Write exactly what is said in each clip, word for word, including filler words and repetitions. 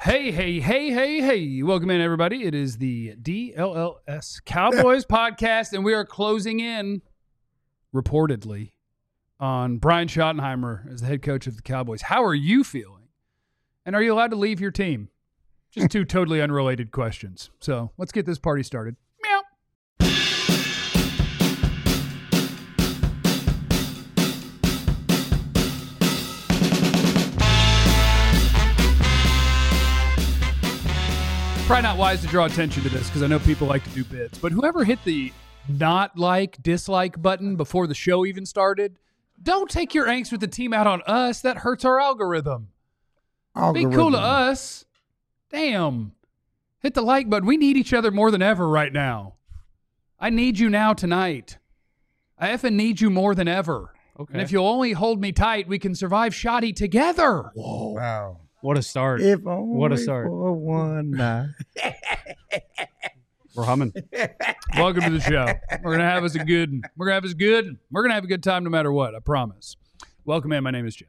Hey, hey, hey, hey, hey. Welcome in, everybody. It is the D L L S Cowboys podcast, and we are closing in, reportedly, on Brian Schottenheimer as the head coach of the Cowboys. How are you feeling? And are you allowed to leave your team? Just two totally unrelated questions. So let's get this party started. Meow. Probably not wise to draw attention to this because I know people like to do bits, but whoever hit the not like, dislike button before the show even started, don't take your angst with the team out on us. That hurts our algorithm. algorithm. Be cool to us. Damn. Hit the like button. We need each other more than ever right now. I need you now tonight. I effing need you more than ever. Okay. And if you'll only hold me tight, we can survive Shoddy together. Whoa. Wow. What a start. If only what a start. For one night. We're humming. Welcome to the show. We're going to have us a good one. We're going to have us good. We're going to have a good time no matter what, I promise. Welcome in. My name is Jeff.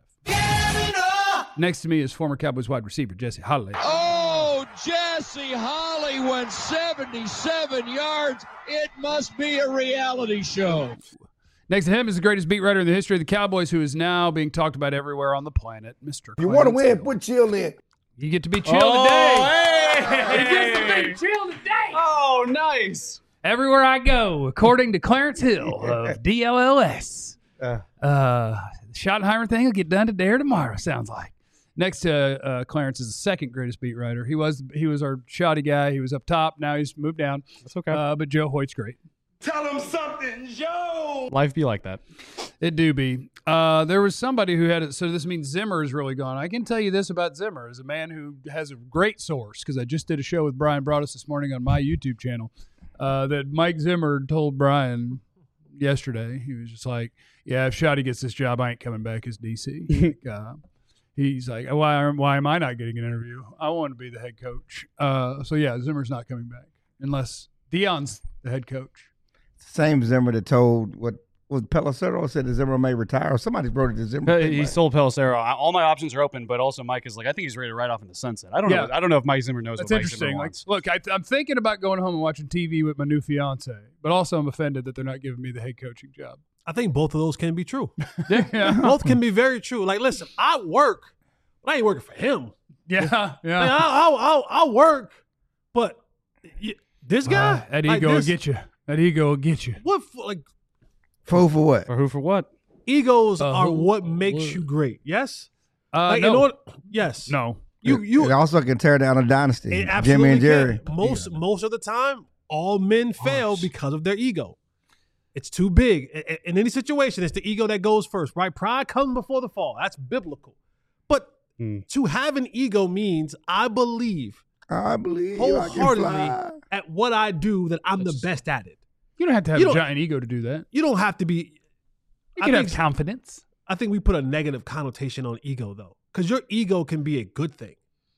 Next to me is former Cowboys wide receiver Jesse Holley. Oh, Jesse Holley went seventy-seven yards. It must be a reality show. Next to him is the greatest beat writer in the history of the Cowboys, who is now being talked about everywhere on the planet, Mister You want to win, put chill in. You get to be chill oh, today. Hey. You get to be chill today. Oh, nice. Everywhere I go, according to Clarence Hill of D L L S. Uh, uh, the Schottenheimer thing will get done today or tomorrow, sounds like. Next to uh, Clarence is the second greatest beat writer. He was he was our shoddy guy. He was up top. Now he's moved down. That's okay. Uh, but Joe Hoyt's great. Tell him something, Joe. Life be like that. It do be. Uh, there was somebody who had it. So this means Zimmer is really gone. I can tell you this about Zimmer as a man who has a great source, because I just did a show with Brian Broaddus this morning on my YouTube channel, uh, that Mike Zimmer told Brian yesterday. He was just like, yeah, if Shoddy gets this job, I ain't coming back as D C. like, uh, he's like, why, why am I not getting an interview? I want to be the head coach. Uh, so, yeah, Zimmer's not coming back unless Dion's the head coach. Same Zimmer that told what was Pelissero said that Zimmer may retire. Or somebody wrote it to Zimmer. He sold Pelissero. All my options are open, but also Mike is like, I think he's ready to ride off in the sunset. I don't Yeah. know. I don't know if Mike Zimmer knows That's what Mike interesting. Zimmer Like, wants. look, I, I'm thinking about going home and watching T V with my new fiance, but also I'm offended that they're not giving me the head coaching job. I think both of those can be true. yeah. Both can be very true. Like, listen, I work, but I ain't working for him. Yeah. Yeah. Like, I'll, I'll, I'll, I'll work, but y- this guy, Uh, that like ego will this- get you. That ego will get you. What, f- like, Fool for what? For who, for what? egos Uh, are who- what makes who- you great. Yes. Uh, Like, no. in order, yes. no. You, you. It also can tear down a dynasty. It absolutely Jimmy and Jerry. can. Most most of the time, all men fail because of their ego. It's too big. I- I- In any situation, it's the ego that goes first, right? Pride comes before the fall. That's biblical. But Hmm. to have an ego means I believe I believe I can wholeheartedly fly. at what I do that I'm the best at it. You don't have to have You a don't- giant ego to do that. You don't have to be. You I can have think- confidence. I think we put a negative connotation on ego, though, because your ego can be a good thing.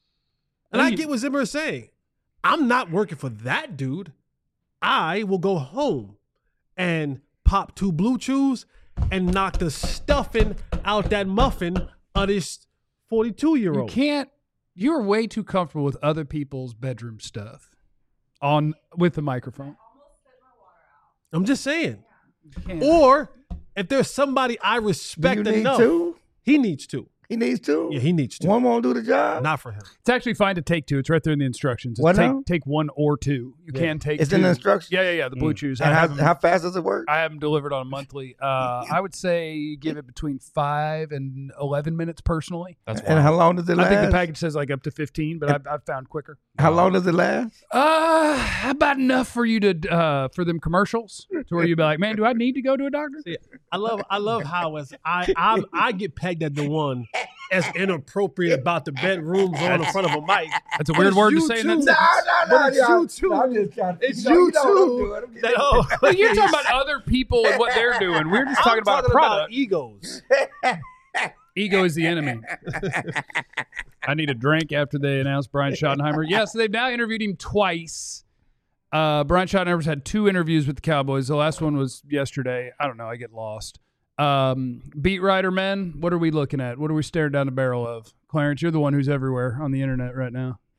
And Well, I you- get what Zimmer is saying. I'm not working for that dude. I will go home and pop two blue chews and knock the stuffing out that muffin of this You forty-two-year-old. can't. You're way too comfortable with other people's bedroom stuff on with the microphone. I'm just saying. You can't. Or if there's somebody I Do respect you need enough, two? he needs to. He needs two? Yeah, he needs to. One won't do the job? Not for him. It's actually fine to take two. It's right there in the instructions. It's What take now? take one or two. You Yeah. can take It's two. in the instructions? Yeah, yeah, yeah. The blue chews. I And how, have 'em- how fast does it work? I have them delivered on a monthly. Uh, I would say give it between five and eleven minutes personally. That's And wild. how long does it I last? think the package says like up to fifteen, but I've, I've found quicker. How long does it last? Uh, about enough for you to uh for them commercials to where you'd be like, man, do I need to go to a doctor? See, I love I love how as I I I get pegged at the one as inappropriate about the bedrooms on in front of a mic. That's a weird it's word to you say in too. that sentence. But it's you too. I'm just trying to, It's you, know, you you know what I'm too. doing. I'm getting- That, oh, Well, you're talking about other people and what they're doing. We're just talking I'm about talking a product. egos. Ego is the enemy. I need a drink after they announced Brian Schottenheimer. Yes, they've now interviewed him twice. Uh, Brian Schottenheimer's had two interviews with the Cowboys. The last one was yesterday. I don't know. I get lost. Um, beat writer men, what are we looking at? What are we staring down the barrel of? Clarence, you're the one who's everywhere on the internet right now.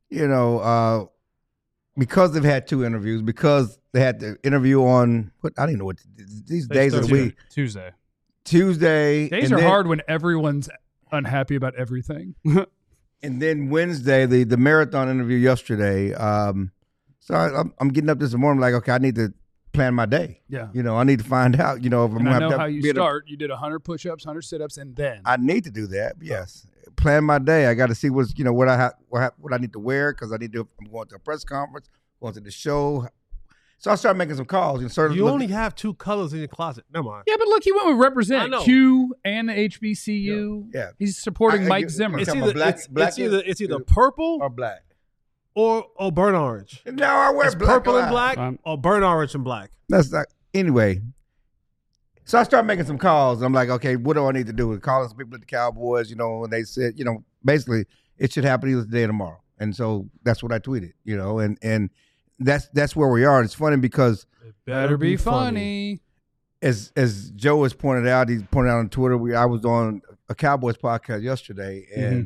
you know, uh, because they've had two interviews, because they had the interview on what I don't even know what these days of the week, Tuesday. Tuesday. Days and are then, hard when everyone's unhappy about everything. and then Wednesday, the the marathon interview yesterday. Um, so I, I'm, I'm getting up this morning, like, okay, I need to plan my day. Yeah. You know, I need to find out. You know, if I'm And gonna I know have to how you be at a- start. You did one hundred push-ups, one hundred sit-ups, and then. I need to do that. Yes, plan my day. I got to see what's you know what I have what, I- what I need to wear because I need to. I'm going to a press conference, going to the show. So I started making some calls. And started You looking- only have two colors in your closet. Never mind. Yeah, but look, he went with I represent know. Q and the H B C U. Yeah. Yeah. He's supporting I- I- Mike you- Zimmer. It's talking either, about black- it's, black it's either it's either is- purple or black. or or burnt orange. No, I wear It's black. purple a and lot. black Um, or burnt orange and black. That's not anyway. So I started making some calls. I'm like, okay, what do I need to do? Calling some people at the Cowboys, you know, and they said, you know, basically it should happen either today or tomorrow. And so that's what I tweeted, you know, and and that's that's where we are. It's funny because Better be funny. as as Joe has pointed out, he's pointed out on Twitter. We I was on a Cowboys podcast yesterday, and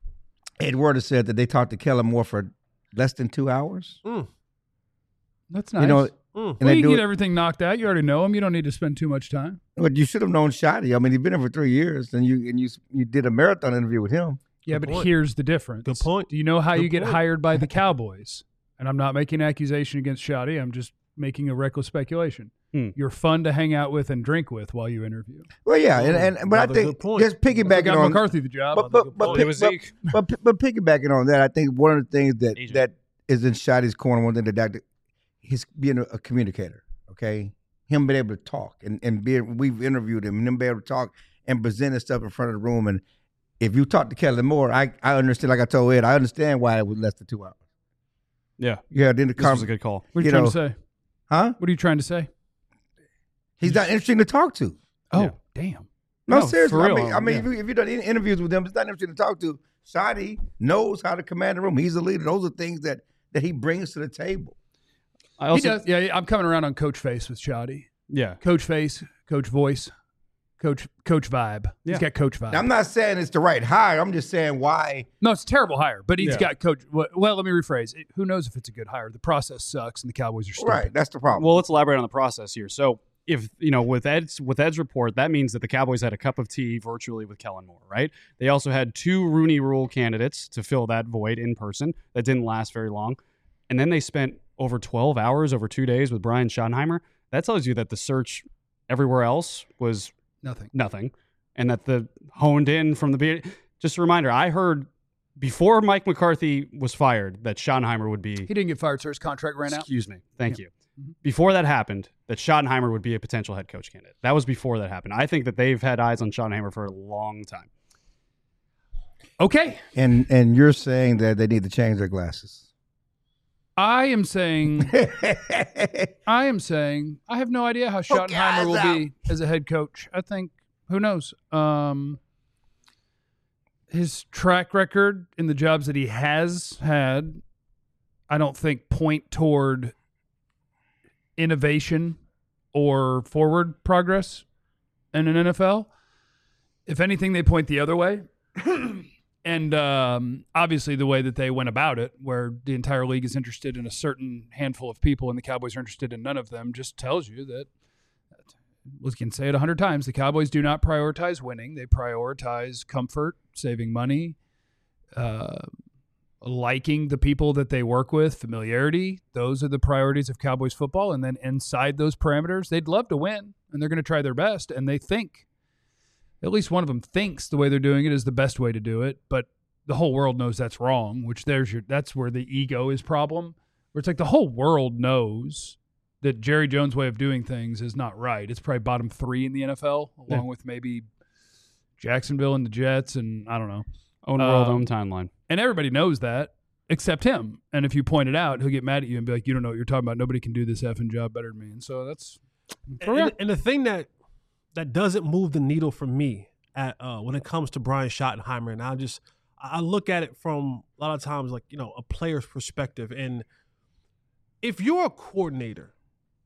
Ed Werder said that they talked to Kellen Moore for less than two hours. Mm. That's nice. You know, Mm. and well, they you do get it. everything knocked out. You already know him. You don't need to spend too much time. But you should have known Shotty. I mean, he's been here for three years, and you and you you did a marathon interview with him. Yeah, Good but point. here's the difference. Good point. Do you know how Good you get point. hired by the Cowboys? And I'm not making an accusation against Shoddy. I'm just making a reckless speculation. Hmm. You're fun to hang out with and drink with while you interview. Well, yeah, and, and but I Another think good point. just They piggybacking got on McCarthy the job. but but but, Well, it pick- was but, Zeke. but but piggybacking on that, I think one of the things that Agent. that is in Shotty's corner, one thing that Doctor he's being a, a communicator. Okay, him being able to talk and and being we've interviewed him and him being able to talk and present his stuff in front of the room. And if you talk to Kellen Moore, I I understand. Like I told Ed, I understand why it was less than two hours. Yeah, Yeah, then the this was a con- good call. What are you, you trying know, to say? huh? What are you trying to say? He's not interesting to talk to. Oh, Yeah. damn. No, No, seriously. for I real, mean, I mean, yeah. if, you, if you've done any interviews with him, it's not interesting to talk to. Shotty knows how to command the room. He's a leader. Those are things that that he brings to the table. I He also, does. Yeah, I'm coming around on Coach Face with Shoddy. yeah, Coach Face, Coach Voice, Coach Coach Vibe. Yeah. He's got Coach Vibe. Now, I'm not saying it's the right hire. I'm just saying why. No, it's a terrible hire, but he's Yeah. got Coach. Well, well, let me rephrase. It- Who knows if it's a good hire? The process sucks, and the Cowboys are stupid. Right. That's the problem. Well, let's elaborate on the process here. So, if you know, with Ed's with Ed's report, that means that the Cowboys had a cup of tea virtually with Kellen Moore, right? They also had two Rooney Rule candidates to fill that void in person. That didn't last very long, and then they spent over twelve hours over two days with Brian Schottenheimer. That tells you that the search everywhere else was Nothing. nothing, and that the honed in from the beginning. Just a reminder, I heard before Mike McCarthy was fired that Schottenheimer would be. He didn't get fired, so his contract ran out. Excuse me. Thank Yeah. you. Before that happened, that Schottenheimer would be a potential head coach candidate. That was before that happened. I think that they've had eyes on Schottenheimer for a long time. Okay. and and you're saying that they need to change their glasses. I am saying, I am saying, I have no idea how Schottenheimer will guys be as a head coach. I think, who knows? Um, his track record in the jobs that he has had, I don't think point toward innovation or forward progress in an N F L. If anything, they point the other way. And um, obviously the way that they went about it, where the entire league is interested in a certain handful of people and the Cowboys are interested in none of them, just tells you that, we can say it a hundred times, the Cowboys do not prioritize winning. They prioritize comfort, saving money, uh, liking the people that they work with, familiarity. Those are the priorities of Cowboys football. And then inside those parameters, they'd love to win, and they're going to try their best, and they think, at least one of them thinks the way they're doing it is the best way to do it, but the whole world knows that's wrong, which there's your that's where the ego is problem. Where it's like the whole world knows that Jerry Jones' way of doing things is not right. It's probably bottom three in the N F L, along Yeah. with maybe Jacksonville and the Jets, and I don't know. Own world, Um, own timeline. And everybody knows that except him. And if you point it out, he'll get mad at you and be like, you don't know what you're talking about. Nobody can do this effing job better than me. And so that's And, and, and the thing that that doesn't move the needle for me at uh, when it comes to Brian Schottenheimer, and I just I look at it from a lot of times like, you know, a player's perspective. And if you're a coordinator,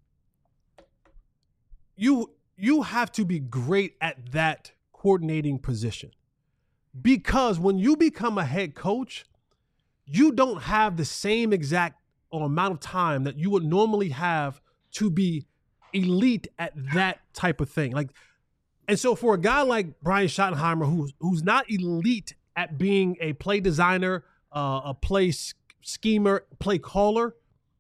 you you have to be great at that coordinating position, because when you become a head coach, you don't have the same exact or amount of time that you would normally have to be elite at that type of thing. Like, and so for a guy like Brian Schottenheimer, who's who's not elite at being a play designer, uh, a play schemer, play caller,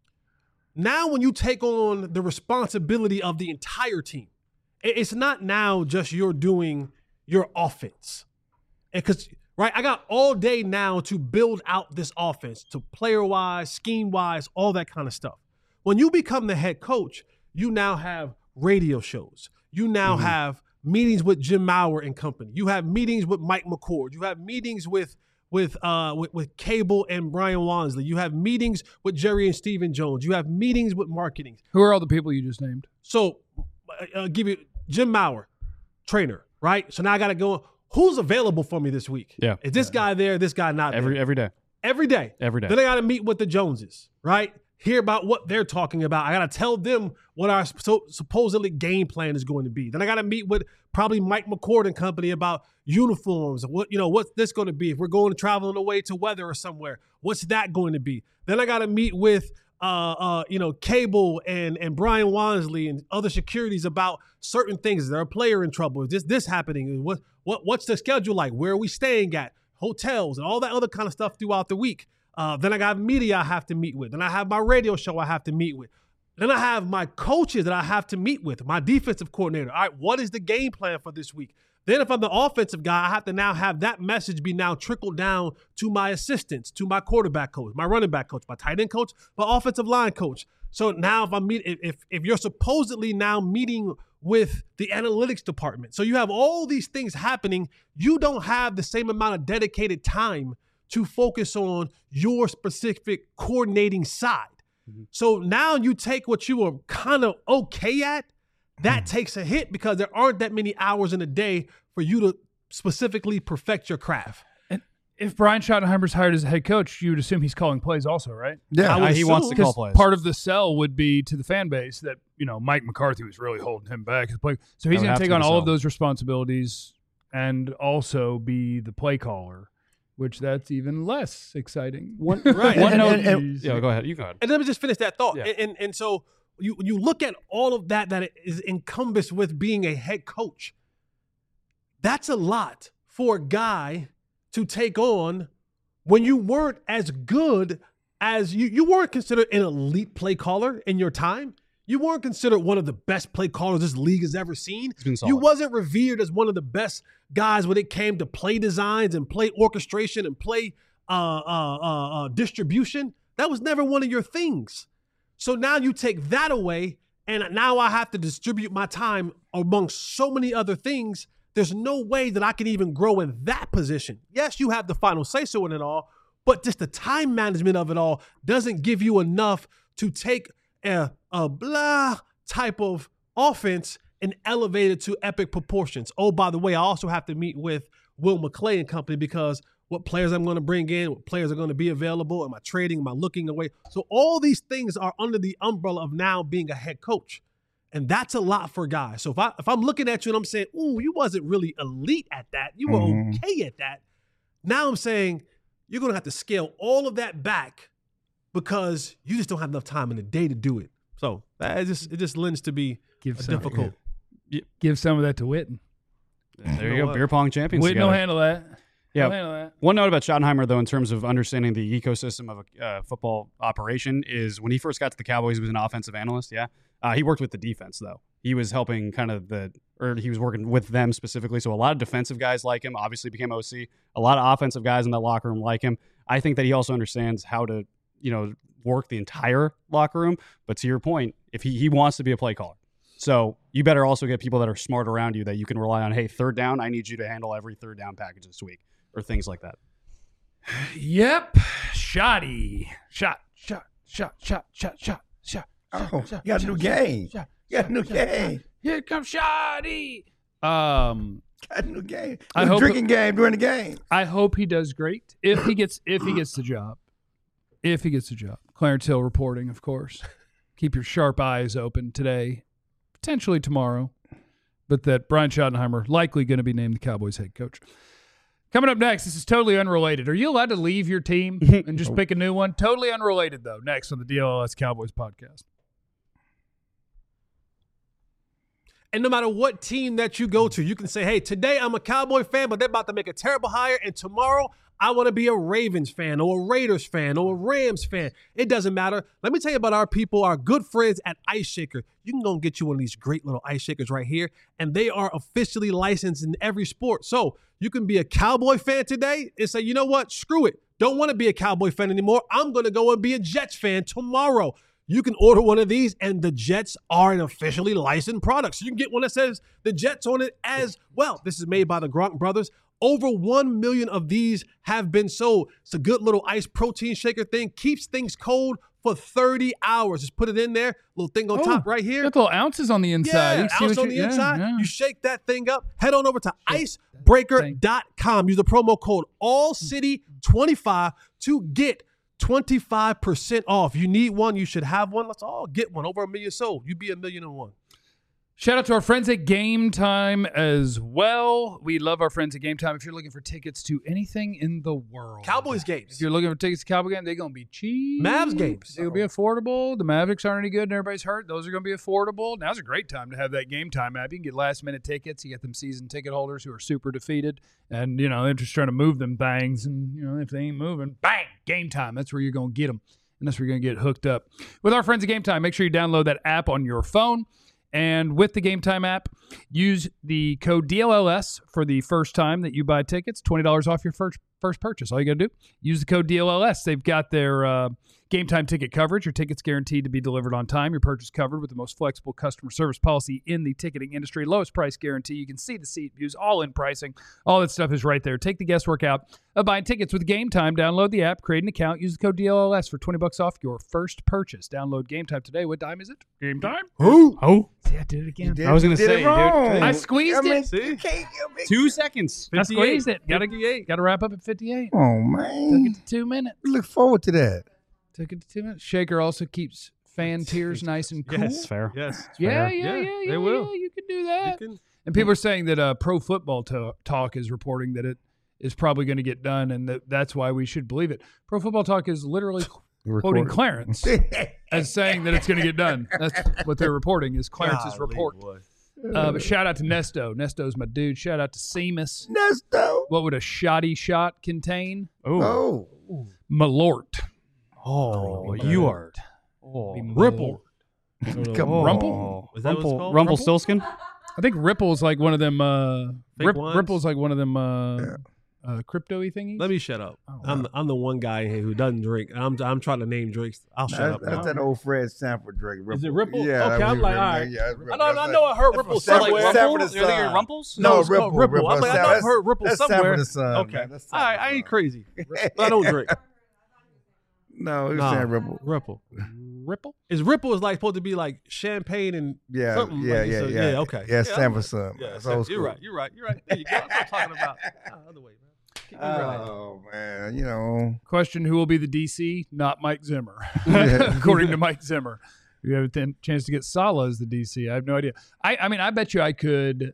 now when you take on the responsibility of the entire team, it's not now just you're doing your offense. And because, right, I got all day now to build out this offense, to player-wise, scheme-wise, all that kind of stuff. When you become the head coach, you now have radio shows. You now mm-hmm. have meetings with Jim Maurer and company. You have meetings with Mike McCord. You have meetings with with uh with, with Cable and Brian Wansley. You have meetings with Jerry and Stephen Jones. You have meetings with marketing. Who are all the people you just named? So I'll give you Jim Maurer, trainer, right? So now I got to go, who's available for me this week? Yeah. Is this guy there? This guy not every there? every day. Every day. Every day. Then I got to meet with the Joneses, right? Hear about what they're talking about. I got to tell them what our so, supposedly game plan is going to be. Then I got to meet with probably Mike McCord and company about uniforms. What, you know, what's this going to be? If we're going to travel away to weather or somewhere, what's that going to be? Then I got to meet with, uh, uh, you know, Cable and and Brian Wansley and other securities about certain things. Is there a player in trouble? Is this this happening? What what what's the schedule like? Where are we staying at? Hotels and all that other kind of stuff throughout the week. Uh, then I got media I have to meet with. Then I have my radio show I have to meet with. Then I have my coaches that I have to meet with, my defensive coordinator. All right, what is the game plan for this week? Then if I'm the offensive guy, I have to now have that message be now trickled down to my assistants, to my quarterback coach, my running back coach, my tight end coach, my offensive line coach. So now if I meet, if if you're supposedly now meeting with the analytics department, so you have all these things happening, you don't have the same amount of dedicated time to focus on your specific coordinating side. Mm-hmm. So now you take what you were kind of okay at, that mm-hmm. takes a hit because there aren't that many hours in a day for you to specifically perfect your craft. And if Brian Schottenheimer's hired as a head coach, you would assume he's calling plays also, right? Yeah, uh, he wants to call plays. Part of the sell would be to the fan base that, you know, Mike McCarthy was really holding him back. So he's going to take on all of those responsibilities and also be the play caller, which that's even less exciting. One, right. One and, note, and, and, yeah, go ahead. You go ahead. And let me just finish that thought. Yeah. And, and and so you you look at all of that that is encompassed with being a head coach. That's a lot for a guy to take on when you weren't as good as you you weren't considered an elite play caller in your time. You weren't considered one of the best play callers this league has ever seen. You wasn't revered as one of the best guys when it came to play designs and play orchestration and play uh, uh, uh, uh, distribution. That was never one of your things. So now you take that away, and now I have to distribute my time amongst so many other things. There's no way that I can even grow in that position. Yes, you have the final say-so in it all, but just the time management of it all doesn't give you enough to take a, a blah type of offense and elevate it to epic proportions. Oh, by the way, I also have to meet with Will McClay and company because what players I'm going to bring in, what players are going to be available, am I trading, am I looking away? So all these things are under the umbrella of now being a head coach. And that's a lot for guys. So if, I, if I'm looking at you and I'm saying, ooh, you wasn't really elite at that, you were mm-hmm. okay at that, now I'm saying you're going to have to scale all of that back because you just don't have enough time in the day to do it. So that just it just lends to be Give a some, difficult. Yeah. Give some of that to Witten. There you go, beer pong champions. Witten together. will handle that. Yeah. Handle that. One note about Schottenheimer, though, in terms of understanding the ecosystem of a uh, football operation, is when he first got to the Cowboys, he was an offensive analyst. Yeah, uh, he worked with the defense though. He was helping kind of the, or he was working with them specifically. So a lot of defensive guys like him. Obviously, became O C. A lot of offensive guys in that locker room like him. I think that he also understands how to, you know, work the entire locker room. But to your point, if he, he wants to be a play caller. So you better also get people that are smart around you that you can rely on. Hey, third down, I need you to handle every third down package this week or things like that. Yep. Shoddy. Shot, shot, shot, shot, shot, shot, shot. Oh, you got a new game. You got a new game. Here comes Shoddy. Um, got a new game. I hope drinking game during the game. I hope he does great. If he gets if he gets the job. If he gets the job. Clarence Hill reporting, of course. Keep your sharp eyes open today, potentially tomorrow, but that Brian Schottenheimer likely going to be named the Cowboys head coach. Coming up next, this is totally unrelated. Are you allowed to leave your team and just pick a new one? Totally unrelated, though. Next on the D L L S Cowboys podcast. And no matter what team that you go to, you can say, hey, today I'm a Cowboy fan, but they're about to make a terrible hire. And tomorrow I want to be a Ravens fan or a Raiders fan or a Rams fan. It doesn't matter. Let me tell you about our people, our good friends at Ice Shaker. You can go and get you one of these great little ice shakers right here. And they are officially licensed in every sport. So you can be a Cowboy fan today and say, you know what? Screw it. Don't want to be a Cowboy fan anymore. I'm going to go and be a Jets fan tomorrow. You can order one of these, and the Jets are an officially licensed product. So you can get one that says the Jets on it as well. This is made by the Gronk brothers. Over one million of these have been sold. It's a good little ice protein shaker thing. Keeps things cold for thirty hours. Just put it in there. Little thing on Oh, top right here. Got little ounces on the inside. Yeah, You see ounce what on you- the yeah, inside. yeah. You shake that thing up. Head on over to icebreaker dot com. Use the promo code all city twenty-five to get twenty-five percent off. You need one. You should have one. Let's all get one. Over a million sold. You be a million and one. Shout out to our friends at Game Time as well. We love our friends at Game Time. If you're looking for tickets to anything in the world, Cowboys If games. you're looking for tickets to Cowboy game, they're going to be cheap. Mavs games. They'll be affordable. The Mavericks aren't any good and everybody's hurt. Those are going to be affordable. Now's a great time to have that Game Time app. You can get last minute tickets. You get them season ticket holders who are super defeated. And, you know, they're just trying to move them things. And, you know, if they ain't moving, bang, Game Time. That's where you're going to get them. And that's where you're going to get hooked up. With our friends at Game Time, make sure you download that app on your phone. And with the Game Time app, use the code D L L S for the first time that you buy tickets. twenty dollars off your first first purchase. All you got to do, use the code D L L S. They've got their uh, Game Time ticket coverage. Your ticket's guaranteed to be delivered on time. Your purchase covered with the most flexible customer service policy in the ticketing industry. Lowest price guarantee. You can see the seat views, all in pricing. All that stuff is right there. Take the guesswork out of buying tickets with Game Time. Download the app, create an account, use the code D L L S for twenty bucks off your first purchase. Download Game Time today. What time is it? Game Time? Who? Oh, See, I did it again. I was gonna You did say, it wrong. dude. I squeezed I mean, it. See? you can't give me- two seconds. I squeezed it. Got to fifty-eight. got to wrap up at fifty-eight. Oh Took man, it to two minutes. we look forward to that. Took it to two minutes. Shaker also keeps fan tears nice and cool. Yes. Fair. Yes. Yeah, fair. yeah, Yeah, yeah, yeah. they will. Yeah, you can do You that. can- And people are saying that uh, Pro Football to- Talk is reporting that it is probably going to get done, and that that's why we should believe it. Pro Football Talk is literally quoting Recorded. Clarence as saying that it's going to get done. That's what they're reporting is Clarence's Golly, report. boy. Uh, but shout out to Nesto. Nesto's my dude. Shout out to Seamus. Nesto. What would a shoddy shot contain? Oh, Oh, Malort. oh, you are. Oh, Ripple. come oh. on. Rumple? Is that what it's Rumple, called? Rumpelstiltskin? I think Ripple's like one of them. Uh, Fake Rip, ones? Ripple's like one of them uh, Yeah. uh, crypto-y thingies. Let me shut up. Oh, I'm the, I'm the one guy here who doesn't drink. I'm I'm trying to name drinks. I'll shut That's, up. that's now. that old Fred Sanford drink. Ripple. Is it Ripple? Yeah. Okay, that I'm was like, Ripple. all right. Yeah, that's I Ripple. know, I That's know I heard that's Ripple from somewhere. Sanford- Rumpel? Sanford You're thinking Son. Rumples? No, No, it's Ripple. called Ripple. Ripple. I'm like, I know I've That's- heard Ripple that's somewhere. Sanford and Son, Okay. man. That's All right, Sanford I ain't and Son. crazy, but I don't drink. No, it's Nah, saying Ripple. Ripple. Ripple? Is Ripple is like supposed to be like champagne and Yeah, something yeah, like yeah, so- yeah. yeah, okay. Yeah, Yeah, Sanford Son. Yeah, That's so- old you're school. right. You're right. You're right. There you go. That's what I'm talking about. Ah, other way, man. Keep me right. Oh man, you know. Question: Who will be the D C? Not Mike Zimmer, according to Mike Zimmer. You have a th- chance to get Saleh as the D C. I have no idea. I, I mean, I bet you I could.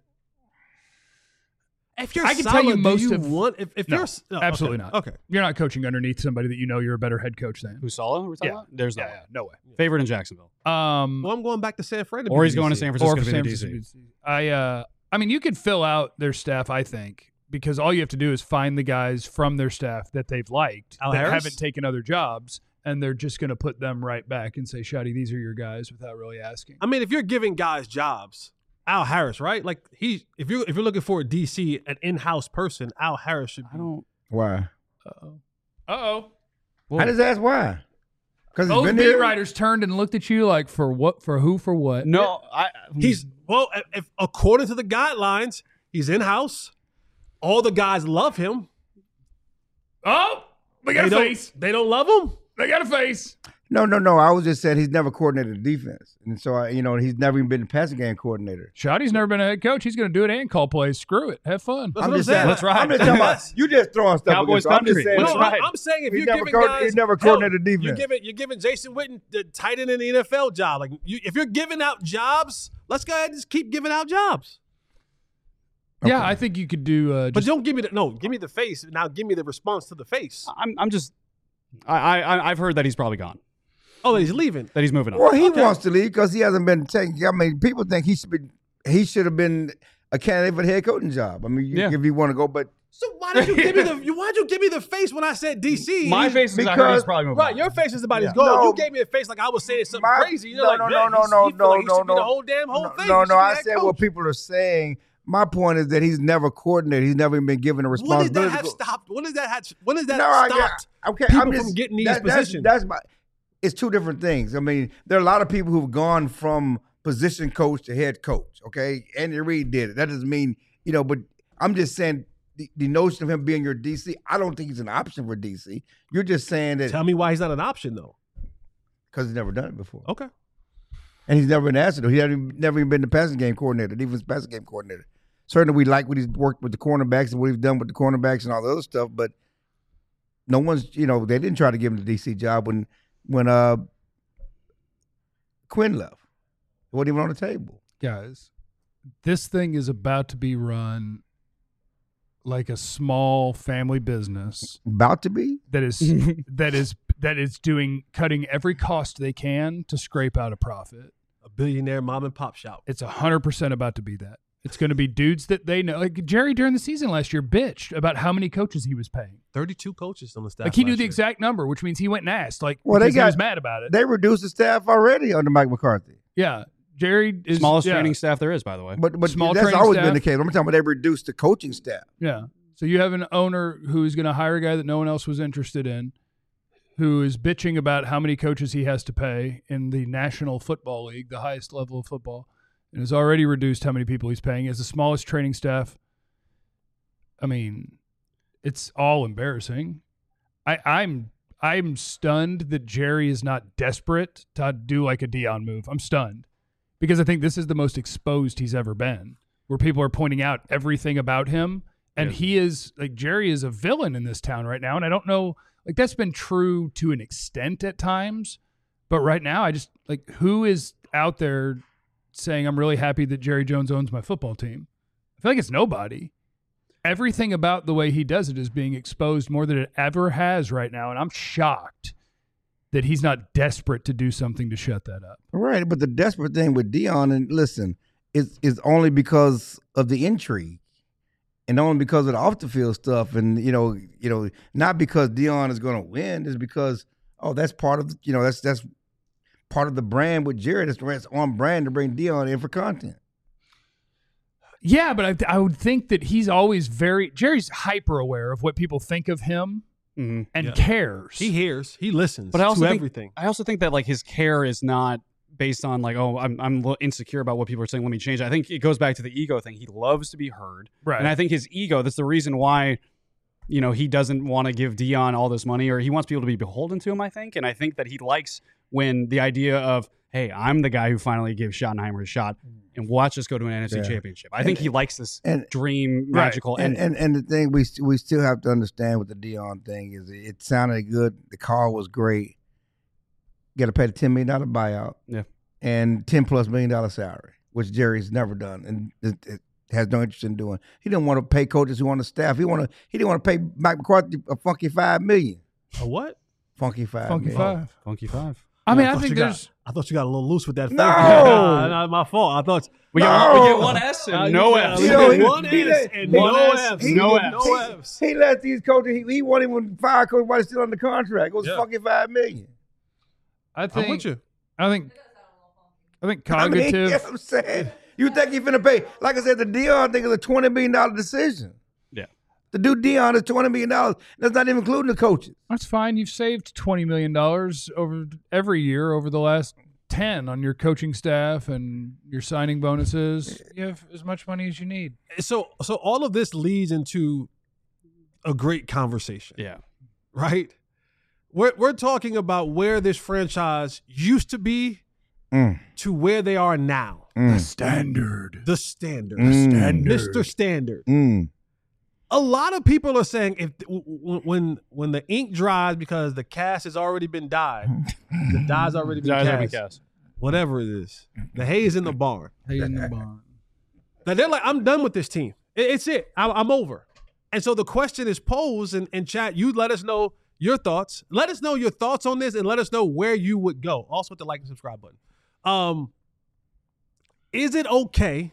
If you're I can tell you solid, do most you of- want if, if No, you're s- no, absolutely okay, not. Okay. You're not coaching underneath somebody that you know you're a better head coach than. Who's Sala? We're talking Yeah. about? There's no Yeah, way. yeah, no way. Favorite in Jacksonville. Um, Well, I'm going back to San Fran. to Or be he's going to D C. San or Francisco for to be San the D C. Francisco. I, uh, I mean, you could fill out their staff. I think because all you have to do is find the guys from their staff that they've liked Al that Harris? haven't taken other jobs, and they're just going to put them right back and say, "Shotty, these are your guys," without really asking. I mean, if you're giving guys jobs, Al Harris, right? Like he, if you if you're looking for a D C, an in-house person, Al Harris should be. I don't. Why? Uh-oh. Uh-oh. I just asked why. Because he's Those been beat there. writers turned and looked at you like, for what? For who? For what? No, I. He's well, if, if according to the guidelines, he's in-house. All the guys love him. Oh, they got They a don't, face. they don't love him. They got a face. No, no, no. I was just saying he's never coordinated the defense, and so I, you know, he's never even been a passing game coordinator. Shotty's never been a head coach. He's going to do it and call plays. Screw it. Have fun. That's I'm what just I'm saying. saying. That's right. I'm just talking about you just throwing stuff. Cowboys against him. I'm just country. saying. No, That's I'm- right. I'm saying if He you're never giving co- guys, he never hell, coordinated defense. You're giving you're giving Jason Witten the tight end in the N F L job. Like you, if you're giving out jobs, let's go ahead and just keep giving out jobs. Yeah, I think you could do. Uh, But just, don't give me the no. Give me the face. Now give me the response to the face. I'm I'm just I I I've heard that he's probably gone. Oh, he's leaving. That he's moving on. Well, he Okay. wants to leave because he hasn't been taken. I mean, people think he should be. He should have been a candidate for the head coaching job. I mean, you, Yeah. if you want to go, but So why did you give me the? you- Why did you give me the face when I said D C? My He's- face is I heard because- he's probably moving Right, on. your face is about his Yeah. goal. No. You gave me a face like I was saying something My- crazy. You're no, like, no, man, no, he's- no, he feel no, like he no, should be no. the whole damn whole thing. no, He should no. be I head said what coach. people are saying. My point is that he's never coordinated. He's never even been given a When did responsibility. that have to go- stopped? When did that have? When did that No, I stopped? got okay. people I'm from just, getting these that, that's- positions? That's, my. It's two different things. I mean, there are a lot of people who've gone from position coach to head coach. Okay, Andy Reid did it. That doesn't mean you know. But I'm just saying the, the notion of him being your D C. I don't think he's an option for D C. You're just saying that Tell me why he's not an option though. because he's never done it before, Okay. and he's never been asked to do. He hasn't never even been the passing game coordinator, defense passing game coordinator. Certainly, we like what he's worked with the cornerbacks and what he's done with the cornerbacks and all the other stuff. But no one's, you know, they didn't try to give him the D C job when when uh Quinn left. It wasn't even on the table. guys, this thing is about to be run like a small family business About to be. that is that is that is doing cutting every cost they can to scrape out a profit. A billionaire mom and pop shop. It's a hundred percent about to be that. It's going to be dudes that they know. Like Jerry during the season last year bitched about how many coaches he was paying. Thirty-two coaches on the staff. Like he knew last the year. exact number, which means he went and asked. Like Well, they because he was got- mad about it. They reduced the staff already under Mike McCarthy. Yeah, Jerry is Smallest yeah, training staff there is, by the way. But but Small that's training always staff. been the case. I'm talking about they reduced the coaching staff. Yeah. So you have an owner who's going to hire a guy that no one else was interested in, who is bitching about how many coaches he has to pay in the National Football League, the highest level of football, and has already reduced how many people he's paying. He has the smallest training staff. I mean, it's all embarrassing. I, I'm I'm stunned that Jerry is not desperate to do like a Dion move. I'm stunned because I think this is the most exposed he's ever been, where people are pointing out everything about him. And Yeah. he is like Jerry is a villain in this town right now. And I don't know, like that's been true to an extent at times. But right now, I just like who is out there saying, I'm really happy that Jerry Jones owns my football team? I feel like it's nobody. Everything about the way he does it is being exposed more than it ever has right now. And I'm shocked that he's not desperate to do something to shut that up. Right, but the desperate thing with Dion, and listen, is is only because of the intrigue, and only because of the off the field stuff, and you know, you know, not because Dion is going to win, is because oh, that's part of the, you know, that's that's part of the brand with Jared. It's it's on brand to bring Dion in for content. Yeah, but I, I would think that he's always very Jerry's hyper aware of what people think of him Mm-hmm. and Yeah. cares. He hears. He listens. But I also to think, everything. I also think that like his care is not based on like, oh, I'm I'm lo- insecure about what people are saying. Let me change it. I think it goes back to the ego thing. He loves to be heard, Right. And I think his ego. That's the reason why, you know, he doesn't want to give Dion all this money, or he wants people to be beholden to him. I think, and I think that he likes when the idea of, hey, I'm the guy who finally gives Schottenheimer a shot, and watch us go to an N F C Yeah. championship. I think he likes this And dream, Right. magical and, ending. and and the thing we we still have to understand with the Dion thing is it sounded good. The call was great. Got to pay the ten million dollar buyout. Yeah. And ten plus million dollar salary, which Jerry's never done and it, it has no interest in doing. He didn't want to pay coaches who on the staff. He want to. He didn't want to pay Mike McCarthy a funky five million. A what? Funky five. Funky million. five. Funky five. I mean, I thought think you got- there's I thought you got a little loose with that. No! Nah, not my fault. I thought We No! get we get one S and Uh, no yeah, Fs. we You know, get he- one he S let- and he- no S, Fs. he- no he- Fs. No Fs. He let these coaches. He, he won't even fire coach while he's still under contract. It was Yeah. funky five million. I I'm think with you. I think I think I mean, cognitive you know what I'm saying? You think he finna pay? Like I said, the Dion thing is a twenty million dollar decision. Yeah. To do Dion is twenty million dollars. That's not even including the coaches. That's fine. You've saved twenty million dollars over every year over the last ten on your coaching staff and your signing bonuses. You have as much money as you need. So, so all of this leads into a great conversation, Yeah. right? We're we're talking about where this franchise used to be Mm, to where they are now. mm, Standard. The standard, Mm. Standard. Mister Standard. mm. A lot of people are saying if w- w- when when the ink dries because the cast has already been dyed, the dye's already been Guys cast, having cast. whatever it is, the hay is in the barn. Hey, in the barn. Now they're like, I'm done with this team. It, it's it. I, I'm over. And so the question is posed in, in chat. You let us know your thoughts. Let us know your thoughts on this and let us know where you would go. Also hit the like and subscribe button. Um, is it okay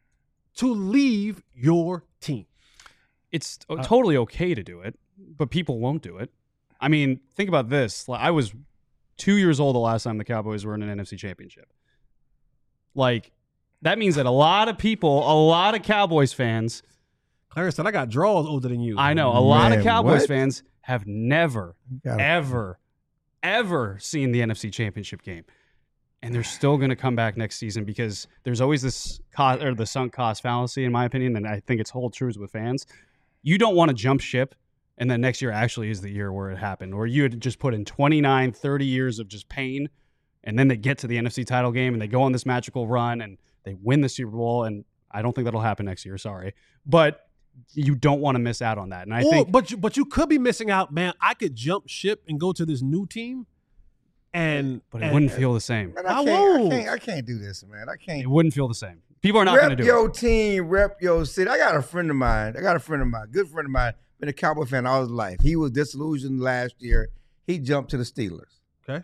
to leave your team? It's uh, totally okay to do it, but people won't do it. I mean, think about this. Like, I was two years old the last time the Cowboys were in an N F C championship. Like, that means that a lot of people, a lot of Cowboys fans. Clarence said, I got draws older than you. I know. A lot Man, of Cowboys what? fans have never, gotta- ever, ever seen the N F C championship game. And they're still going to come back next season because there's always this cost, or the sunk cost fallacy, in my opinion, and I think it's whole truths with fans. You don't want to jump ship, and then next year actually is the year where it happened, where you had just put in twenty-nine, thirty years of just pain, and then they get to the N F C title game, and they go on this magical run, and they win the Super Bowl, and I don't think that'll happen next year, sorry. But you don't want to miss out on that. And I or, think, but you, but you could be missing out, man. I could jump ship and go to this new team, and but it and, wouldn't feel the same. Man, I I, can't, won't. I can't. I can't do this, man. I can't. It wouldn't feel the same. People are not going to Rep do your it. team, rep your city. I got a friend of mine. I got a friend of mine, good friend of mine, been a Cowboy fan all his life. He was disillusioned last year. He jumped to the Steelers. Okay.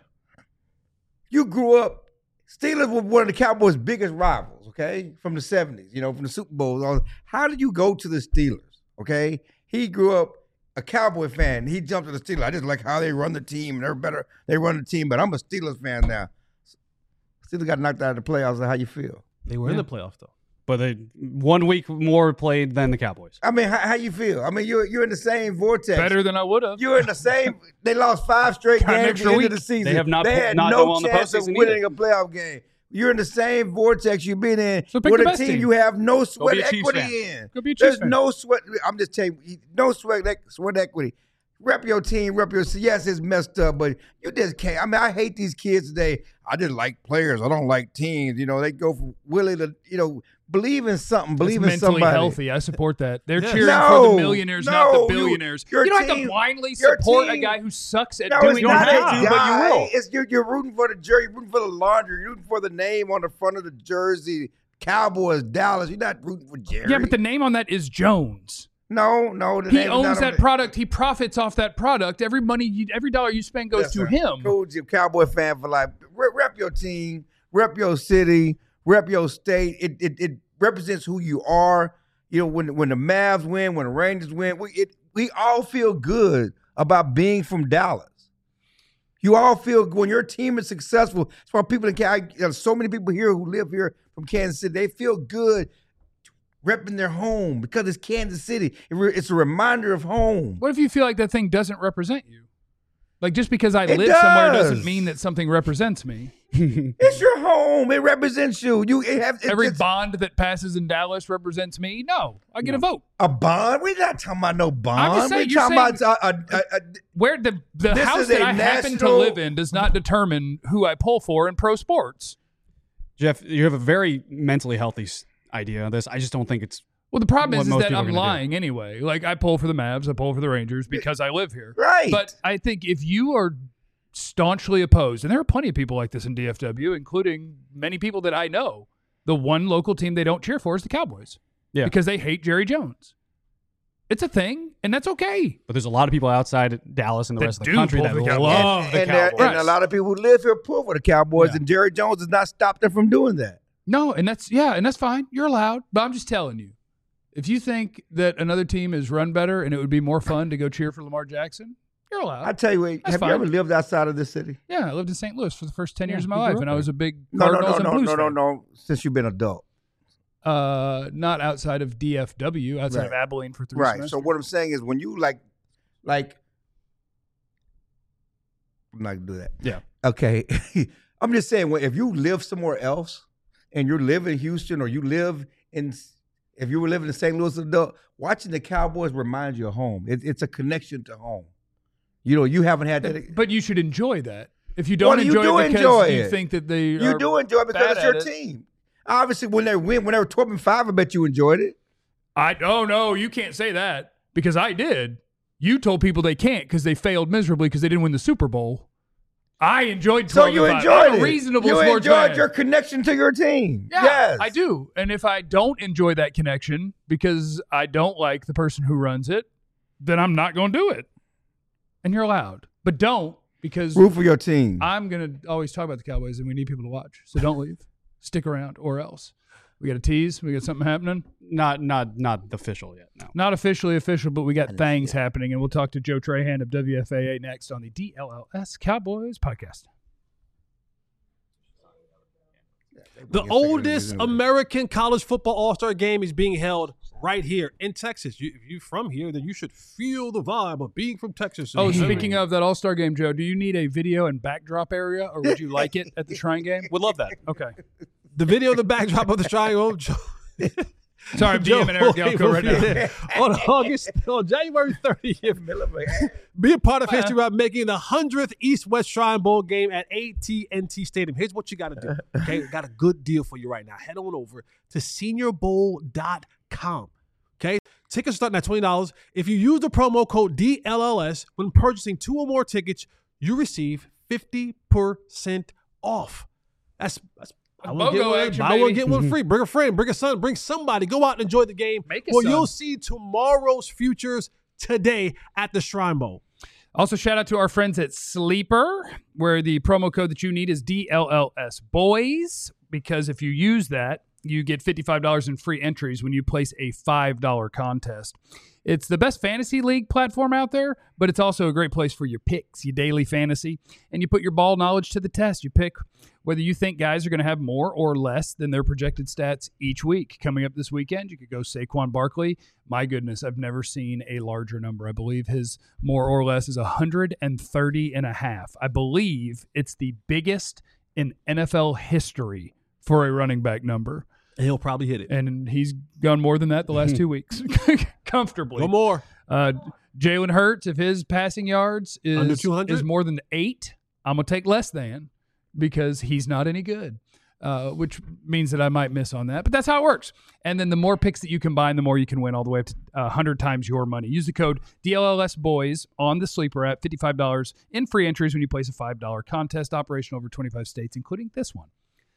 You grew up, Steelers were one of the Cowboys' biggest rivals, okay, from the seventies, you know, from the Super Bowls. How did you go to the Steelers, okay? He grew up a Cowboy fan. He jumped to the Steelers. I just like how they run the team. They're better. They run the team, but I'm a Steelers fan now. Steelers got knocked out of the playoffs. How you feel? They were in the playoffs, though. But they one week more played than the Cowboys. I mean, how, how you feel? I mean, you're you're in the same vortex. Better than I would have. You're in the same. They lost five straight Got an games at extra the end of week. the season. They have not They put- had not no go on the chance of postseason winning either. a playoff game. You're in the same vortex you've been in So pick with the a best team team. you have no be sweat a Chiefs equity fan. in. Go be a Chiefs There's fan. no sweat. I'm just telling you, no sweat sweat equity. Rep your team, rep your. Yes, it's messed up, but you just can't. I mean, I hate these kids today. I just like players. I don't like teams. You know, they go for Willie to, you know, believe in something, believe It's in mentally somebody. healthy. I support that. They're Yeah. cheering No, for the millionaires, not no, the you- billionaires. You, your don't have to team- blindly your support a team- guy who sucks at No, doing it's not his that job. guy. but you will. It's you're, you're rooting for the jersey, you're rooting for the laundry, you're rooting for the name on the front of the jersey. Cowboys, Dallas. You're not rooting for Jerry. Yeah, but the name on that is Jones. no, no. The He name is owns not on that the- product. He profits off that product. Every money, you, every dollar you spend goes to Listen, him. Coach, you're a Cowboy fan for life. Rep, rep your team, rep your city, rep your state. It, it it represents who you are. You know, when when the Mavs win, when the Rangers win, we it we all feel good about being from Dallas. You all feel when your team is successful. That's why people in Kansas, there's so many people here who live here from Kansas City. They feel good repping their home because it's Kansas City. It re- it's a reminder of home. What if you feel like that thing doesn't represent you? Like just because I It live somewhere doesn't does. mean that something represents me. It's your home. It represents you. You it have it Every just- bond that passes in Dallas represents me. No, I get a vote. a bond. We're not talking about no bond. I'm just saying, We're you're talking saying- about a, a, a, Where the the This house is that a I happen to national- live in does not determine who I pull for in pro sports. Jeff, you have a very mentally healthy s- idea on this. I just don't think it's Well, the problem What is, is most that people are I'm gonna do. lying anyway. Like I pull for the Mavs, I pull for the Rangers because I live here. right. But I think if you are staunchly opposed, and there are plenty of people like this in D F W, including many people that I know, the one local team they don't cheer for is the Cowboys. Yeah. Because they hate Jerry Jones. It's a thing, and that's okay. But there's a lot of people outside Dallas and the That rest of the do country pull that for the Cowboys. love and, the and, there- Cowboys. and a lot of people who live here pull for the Cowboys, Yeah. and Jerry Jones has not stopped them from doing that. No, and that's yeah, and that's fine. You're allowed. But I'm just telling you, if you think that another team is run better and it would be more fun to go cheer for Lamar Jackson, you're allowed. I tell you, what, That's have fine. you ever lived outside of this city? yeah, I lived in Saint Louis for the first ten Yeah, years of my you grew life, up and I there. was a big No, no, Cardinals no, and no, Blues no, no, fan. no. Since you've been adult, Uh, not outside of D F W, outside Right. of Abilene for three right? semesters. So what I'm saying is, when you like, like, I'm not gonna do that. Yeah. Okay. I'm just saying, well, if you live somewhere else and you live in Houston or you live in, if you were living in Saint Louis, adult, watching the Cowboys reminds you of home. It, it's a connection to home. You know, you haven't had that. But you should enjoy that. If you don't Well, you enjoy do it because enjoy you it. think that they You are do enjoy it because bad it's your at it. team. Obviously, when they win, when they were twelve and five, I bet you enjoyed it. I oh no, you can't say that because I did. You told people they can't because they failed miserably because they didn't win the Super Bowl. I enjoyed So twelve you to five. enjoyed I'm a it. reasonable you sports enjoyed fan. your connection to your team. Yeah, yes. I do. And if I don't enjoy that connection because I don't like the person who runs it, then I'm not going to do it. And you're allowed. But don't, because Root for your team. I'm going to always talk about the Cowboys and we need people to watch. So don't leave. Stick around or else. We got a tease. We got something happening. Not not not official yet. No. Not officially official, but we got things happening. And we'll talk to Joe Trahan of W F A A next on the D L L S Cowboys podcast. The oldest American college football all-star game is being held right here in Texas. You, if you're from here, then you should feel the vibe of being from Texas. Oh, speaking of that All-Star game, Joe, do you need a video and backdrop area, or would you like it at the Shrine game? Would love that. Okay. The video, the backdrop of the triangle. Sorry, I'm DMing Eric Galco right now. on August, on January thirtieth, be a part of history by making the hundredth East-West Shrine Bowl game at A T and T Stadium. Here's what you got to do. Okay, we got a good deal for you right now. Head on over to senior bowl dot com. Okay, tickets starting at twenty dollars. If you use the promo code D L L S when purchasing two or more tickets, you receive fifty percent off. That's that's I will get BOGO one, action, buy one, baby. get one free. Bring a friend, bring a son, bring somebody. Go out and enjoy the game. Make a Well, son. you'll see tomorrow's futures today at the Shrine Bowl. Also, shout out to our friends at Sleeper, where the promo code that you need is D L L S Boys, because if you use that, you get fifty-five dollars in free entries when you place a five dollar contest. It's the best fantasy league platform out there, but it's also a great place for your picks, your daily fantasy, and you put your ball knowledge to the test. You pick whether you think guys are going to have more or less than their projected stats each week. Coming up this weekend, you could go Saquon Barkley. My goodness, I've never seen a larger number. I believe his more or less is one hundred thirty and a half. I believe it's the biggest in N F L history for a running back number. And he'll probably hit it. And he's gone more than that the last two weeks, comfortably. No more. Uh, Jalen Hurts, if his passing yards is, Under two hundred? is more than eight, I'm going to take less than because he's not any good, uh, which means that I might miss on that. But that's how it works. And then the more picks that you combine, the more you can win all the way up to uh, one hundred times your money. Use the code D L L S Boys on the Sleeper app, fifty-five dollars in free entries when you place a five dollar contest. Operation over twenty-five states, including this one.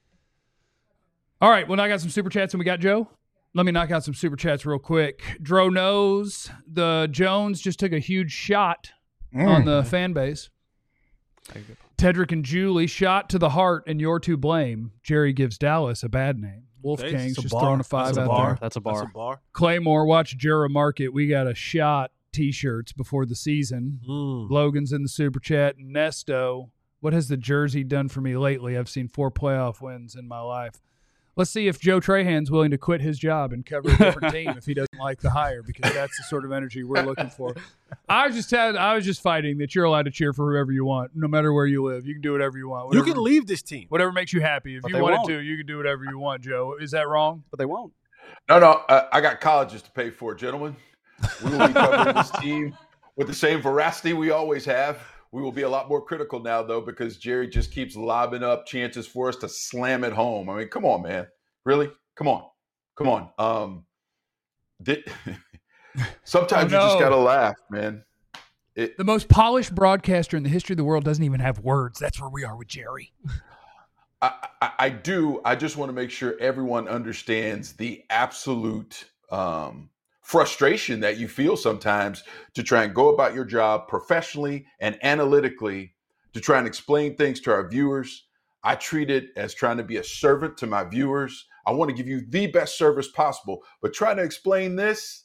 All right, well, now I got some super chats and we got Joe. Let me knock out some super chats real quick. Dro knows the Jones just took a huge shot Mm. on the fan base. Tedrick and Julie shot to the heart and you're to blame. Jerry gives Dallas a bad name. Wolfgang's Okay, it's a just bar. throwing a five That's a out bar. there. That's a bar. That's a bar. Claymore, watch Jura Market. We got a shot T-shirts before the season. Mm. Logan's in the super chat. Nesto, what has the jersey done for me lately? I've seen four playoff wins in my life. Let's see if Joe Trahan's willing to quit his job and cover a different team if he doesn't like the hire, because that's the sort of energy we're looking for. I was just had, I was just fighting that you're allowed to cheer for whoever you want, no matter where you live. You can do whatever you want. You Whatever, can leave this team. whatever makes you happy. If But you they wanted won't. to, you can do whatever you want, Joe. Is that wrong? But they won't. No, no, uh, I got colleges to pay for, gentlemen. We will be covering this team with the same veracity we always have. We will be a lot more critical now, though, because Jerry just keeps lobbing up chances for us to slam it home. I mean, come on, man. Really? Come on. Come on. Um, did, sometimes Oh, no. you just got to laugh, man. It, The most polished broadcaster in the history of the world doesn't even have words. That's where we are with Jerry. I, I, I do. I just want to make sure everyone understands the absolute um, frustration that you feel sometimes to try and go about your job professionally and analytically to try and explain things to our viewers. I treat it as trying to be a servant to my viewers. I want to give you the best service possible, but trying to explain this,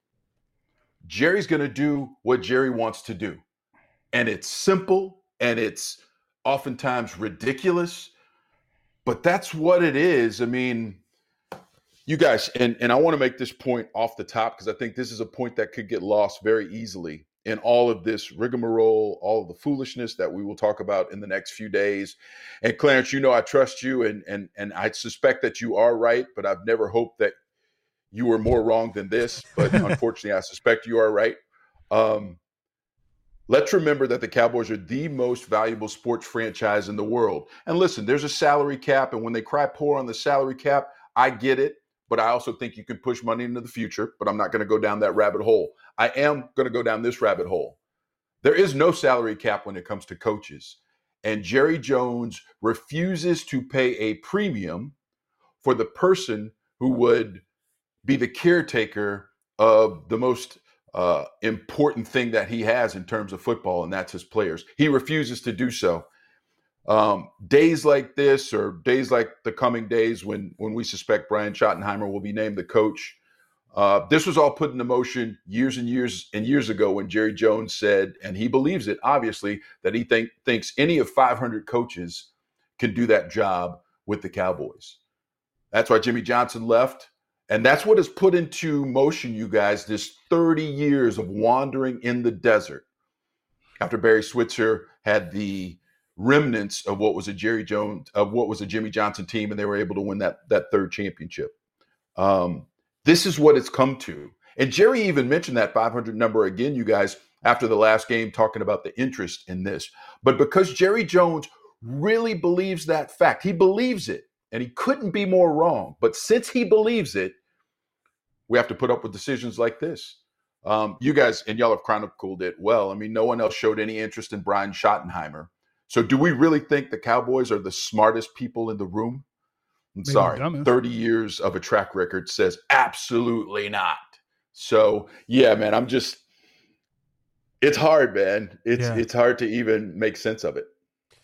Jerry's going to do what Jerry wants to do. And it's simple and it's oftentimes ridiculous, but that's what it is. I mean, you guys, and, and I want to make this point off the top because I think this is a point that could get lost very easily in all of this rigmarole, all of the foolishness that we will talk about in the next few days. And Clarence, you know I trust you, and and and I suspect that you are right, but I've never hoped that you were more wrong than this. But unfortunately, I suspect you are right. Um, let's remember that the Cowboys are the most valuable sports franchise in the world. And listen, there's a salary cap, and when they cry poor on the salary cap, I get it. But I also think you can push money into the future, but I'm not going to go down that rabbit hole. I am going to go down this rabbit hole. There is no salary cap when it comes to coaches. and Jerry Jones refuses to pay a premium for the person who would be the caretaker of the most uh, important thing that he has in terms of football, and that's his players. He refuses to do so. Um, days like this, or days like the coming days when when we suspect Brian Schottenheimer will be named the coach, uh, this was all put into motion years and years and years ago when Jerry Jones said, and he believes it, obviously, that he think, thinks any of five hundred coaches can do that job with the Cowboys. That's why Jimmy Johnson left. And that's what has put into motion, you guys, this thirty years of wandering in the desert after Barry Switzer had the remnants of what was a Jerry Jones, of what was a Jimmy Johnson team, and they were able to win that, that third championship. Um, this is what it's come to. And Jerry even mentioned that five hundred number again, you guys, after the last game, talking about the interest in this. But because Jerry Jones really believes that fact, he believes it, and he couldn't be more wrong. But since he believes it, we have to put up with decisions like this. Um, you guys, and y'all have chronicled it well. I mean, no one else showed any interest in Brian Schottenheimer. So do we really think the Cowboys are the smartest people in the room? I'm Maybe sorry. dumbest. thirty years of a track record says absolutely not. So, yeah, man, I'm just – it's hard, man. It's Yeah. it's hard to even make sense of it.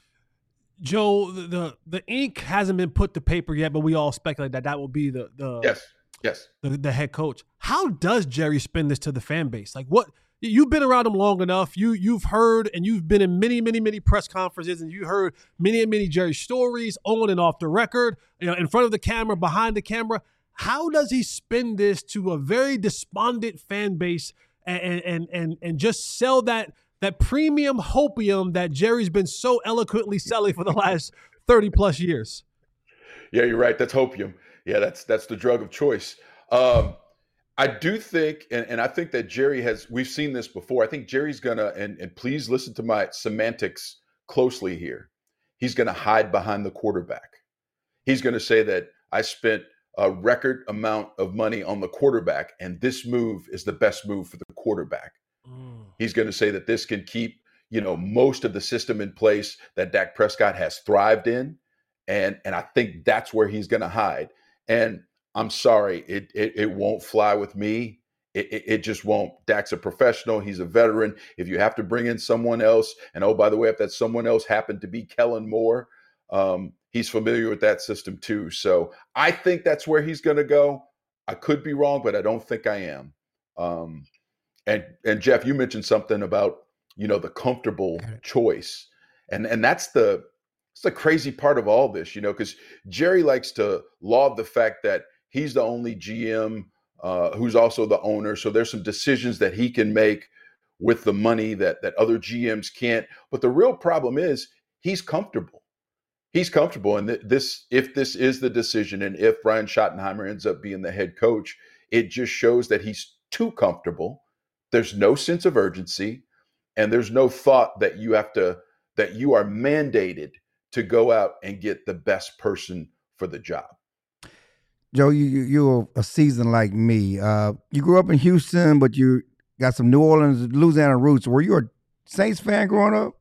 Joe, the, the the ink hasn't been put to paper yet, but we all speculate that that will be the the, Yes, yes. the the head coach. How does Jerry spin this to the fan base? Like, what? You've been around him long enough. You you've heard and you've been in many many many press conferences, and you heard many and many Jerry stories on and off the record, you know, in front of the camera, behind the camera. How does he spin this to a very despondent fan base and and and and just sell that that premium hopium that Jerry's been so eloquently selling for the last thirty plus years? Yeah, you're right. That's hopium. Yeah, that's that's the drug of choice. Um, I do think, and, and I think that Jerry has, we've seen this before. I think Jerry's gonna, and, and please listen to my semantics closely here. He's gonna hide behind the quarterback. He's gonna say that I spent a record amount of money on the quarterback, and this move is the best move for the quarterback. Mm. He's gonna say that this can keep, you know, most of the system in place that Dak Prescott has thrived in. And, and I think that's where he's gonna hide. And I'm sorry, it it, it won't fly with me. It, it, it just won't. Dak's a professional. He's a veteran. If you have to bring in someone else, and oh, by the way, if that someone else happened to be Kellen Moore, um, he's familiar with that system too. So I think that's where he's going to go. I could be wrong, but I don't think I am. Um, and and Jeff, you mentioned something about, you know, the comfortable choice, and and that's the it's the crazy part of all this, you know, because Jerry likes to laud the fact that he's the only G M uh, who's also the owner. So there's some decisions that he can make with the money that that other G Ms can't. But the real problem is he's comfortable. He's comfortable. And th- this, if this is the decision, and if Brian Schottenheimer ends up being the head coach, it just shows that he's too comfortable. There's no sense of urgency, and there's no thought that you have to, that you are mandated to go out and get the best person for the job. Joe, you, you you're a seasoned like me. Uh, you grew up in Houston, but you got some New Orleans, Louisiana roots. Were you a Saints fan growing up?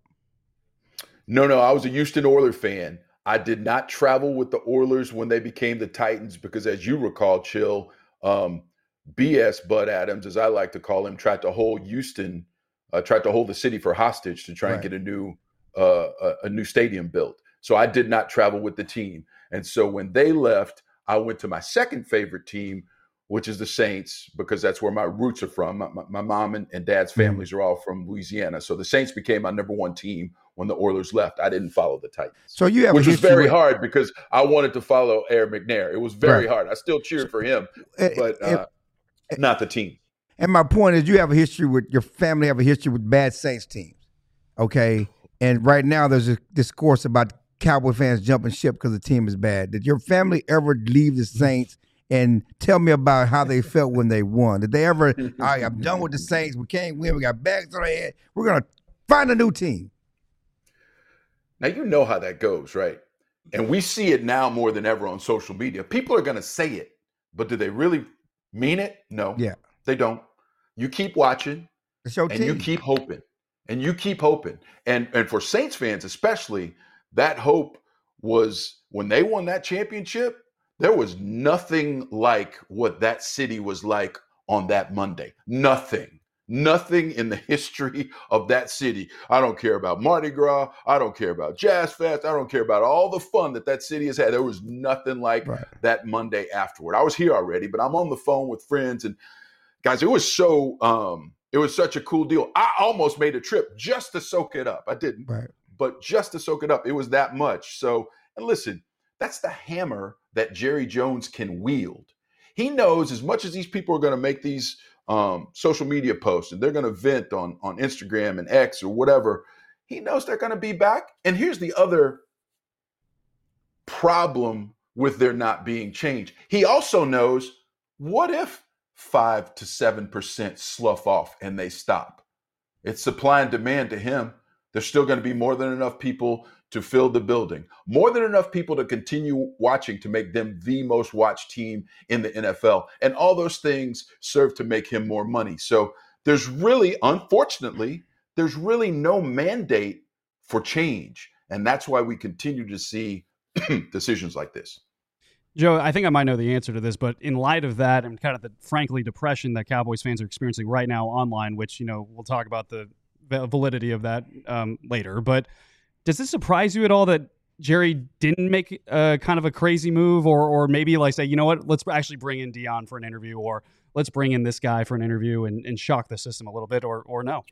No, no, I was a Houston Oilers fan. I did not travel with the Oilers when they became the Titans because, as you recall, Chill, um, B S Bud Adams, as I like to call him, tried to hold Houston, uh, tried to hold the city for hostage to try Right. and get a new uh, a, a new stadium built. So I did not travel with the team. And so when they left, I went to my second favorite team, which is the Saints, because that's where my roots are from. My, my, my mom and, and dad's families are all from Louisiana. So the Saints became my number one team when the Oilers left. I didn't follow the Titans. So you have Which a was history very with- hard because I wanted to follow Aaron McNair. It was very Right. hard. I still cheered for him, Eh, but eh, uh, not the team. And my point is, you have a history with your family have a history with bad Saints teams, okay? And right now, there's a discourse about Cowboy fans jumping ship because the team is bad. Did your family ever leave the Saints? And tell me about how they felt when they won. Did they ever? All right, I'm done with the Saints. We can't win. We got bags on our head. We're gonna find a new team. Now, you know how that goes, right? And we see it now more than ever on social media. People are going to say it, but do they really mean it? No. Yeah. They don't. You keep watching It's your and team. you keep hoping. and you keep hoping. And and for Saints fans especially, that hope was when they won that championship, there was nothing like what that city was like on that Monday. Nothing. Nothing in the history of that city. I don't care about Mardi Gras. I don't care about Jazz Fest. I don't care about all the fun that that city has had. There was nothing like Right. that Monday afterward. I was here already, but I'm on the phone with friends and guys. It was so, um, it was such a cool deal. I almost made a trip just to soak it up. I didn't, Right. but just to soak it up. It was that much. So, and listen, that's the hammer that Jerry Jones can wield. He knows as much as these people are going to make these um, social media posts and they're going to vent on, on Instagram and X or whatever, he knows they're going to be back. And here's the other problem with there not being change. He also knows, what if five to seven percent slough off and they stop? It's supply and demand to him. There's still going to be more than enough people to fill the building, more than enough people to continue watching to make them the most watched team in the N F L. And all those things serve to make him more money. So there's really, unfortunately, there's really no mandate for change. And that's why we continue to see decisions like this. Joe, I think I might know the answer to this, but in light of that and kind of the, frankly, depression that Cowboys fans are experiencing right now online, which, you know, we'll talk about the validity of that um, later, but does this surprise you at all that Jerry didn't make uh, kind of a crazy move, or or maybe like say, you know what, let's actually bring in Dion for an interview, or let's bring in this guy for an interview and, and shock the system a little bit, or or no?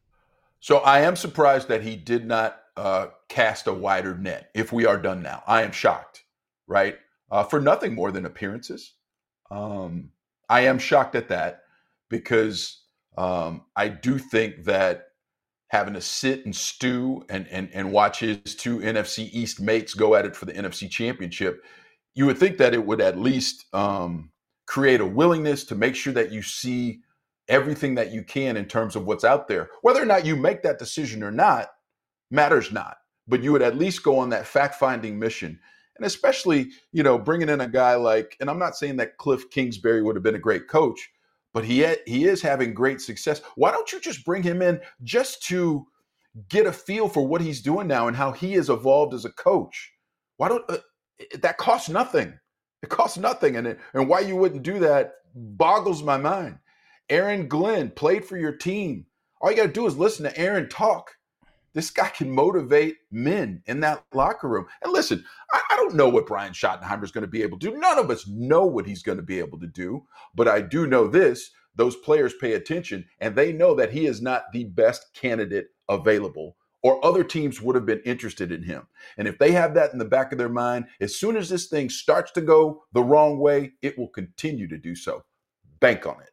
So I am surprised that he did not uh, cast a wider net. If we are done now, I am shocked, right? Uh, for nothing more than appearances. Um, I am shocked at that because um, I do think that having to sit and stew and, and, and watch his two N F C East mates go at it for the N F C Championship, you would think that it would at least um, create a willingness to make sure that you see everything that you can in terms of what's out there. Whether or not you make that decision or not matters not, but you would at least go on that fact-finding mission. And especially, you know, bringing in a guy like, and I'm not saying that Cliff Kingsbury would have been a great coach, but he had, he is having great success. Why don't you just bring him in just to get a feel for what he's doing now and how he has evolved as a coach? Why don't uh, that costs nothing? It costs nothing, and it, and why you wouldn't do that boggles my mind. Aaron Glenn played for your team. All you got to do is listen to Aaron talk. This guy can motivate men in that locker room. And listen, I, I don't know what Brian Schottenheimer is going to be able to do. None of us know what he's going to be able to do. But I do know this. Those players pay attention, and they know that he is not the best candidate available, or other teams would have been interested in him. And if they have that in the back of their mind, as soon as this thing starts to go the wrong way, it will continue to do so. Bank on it.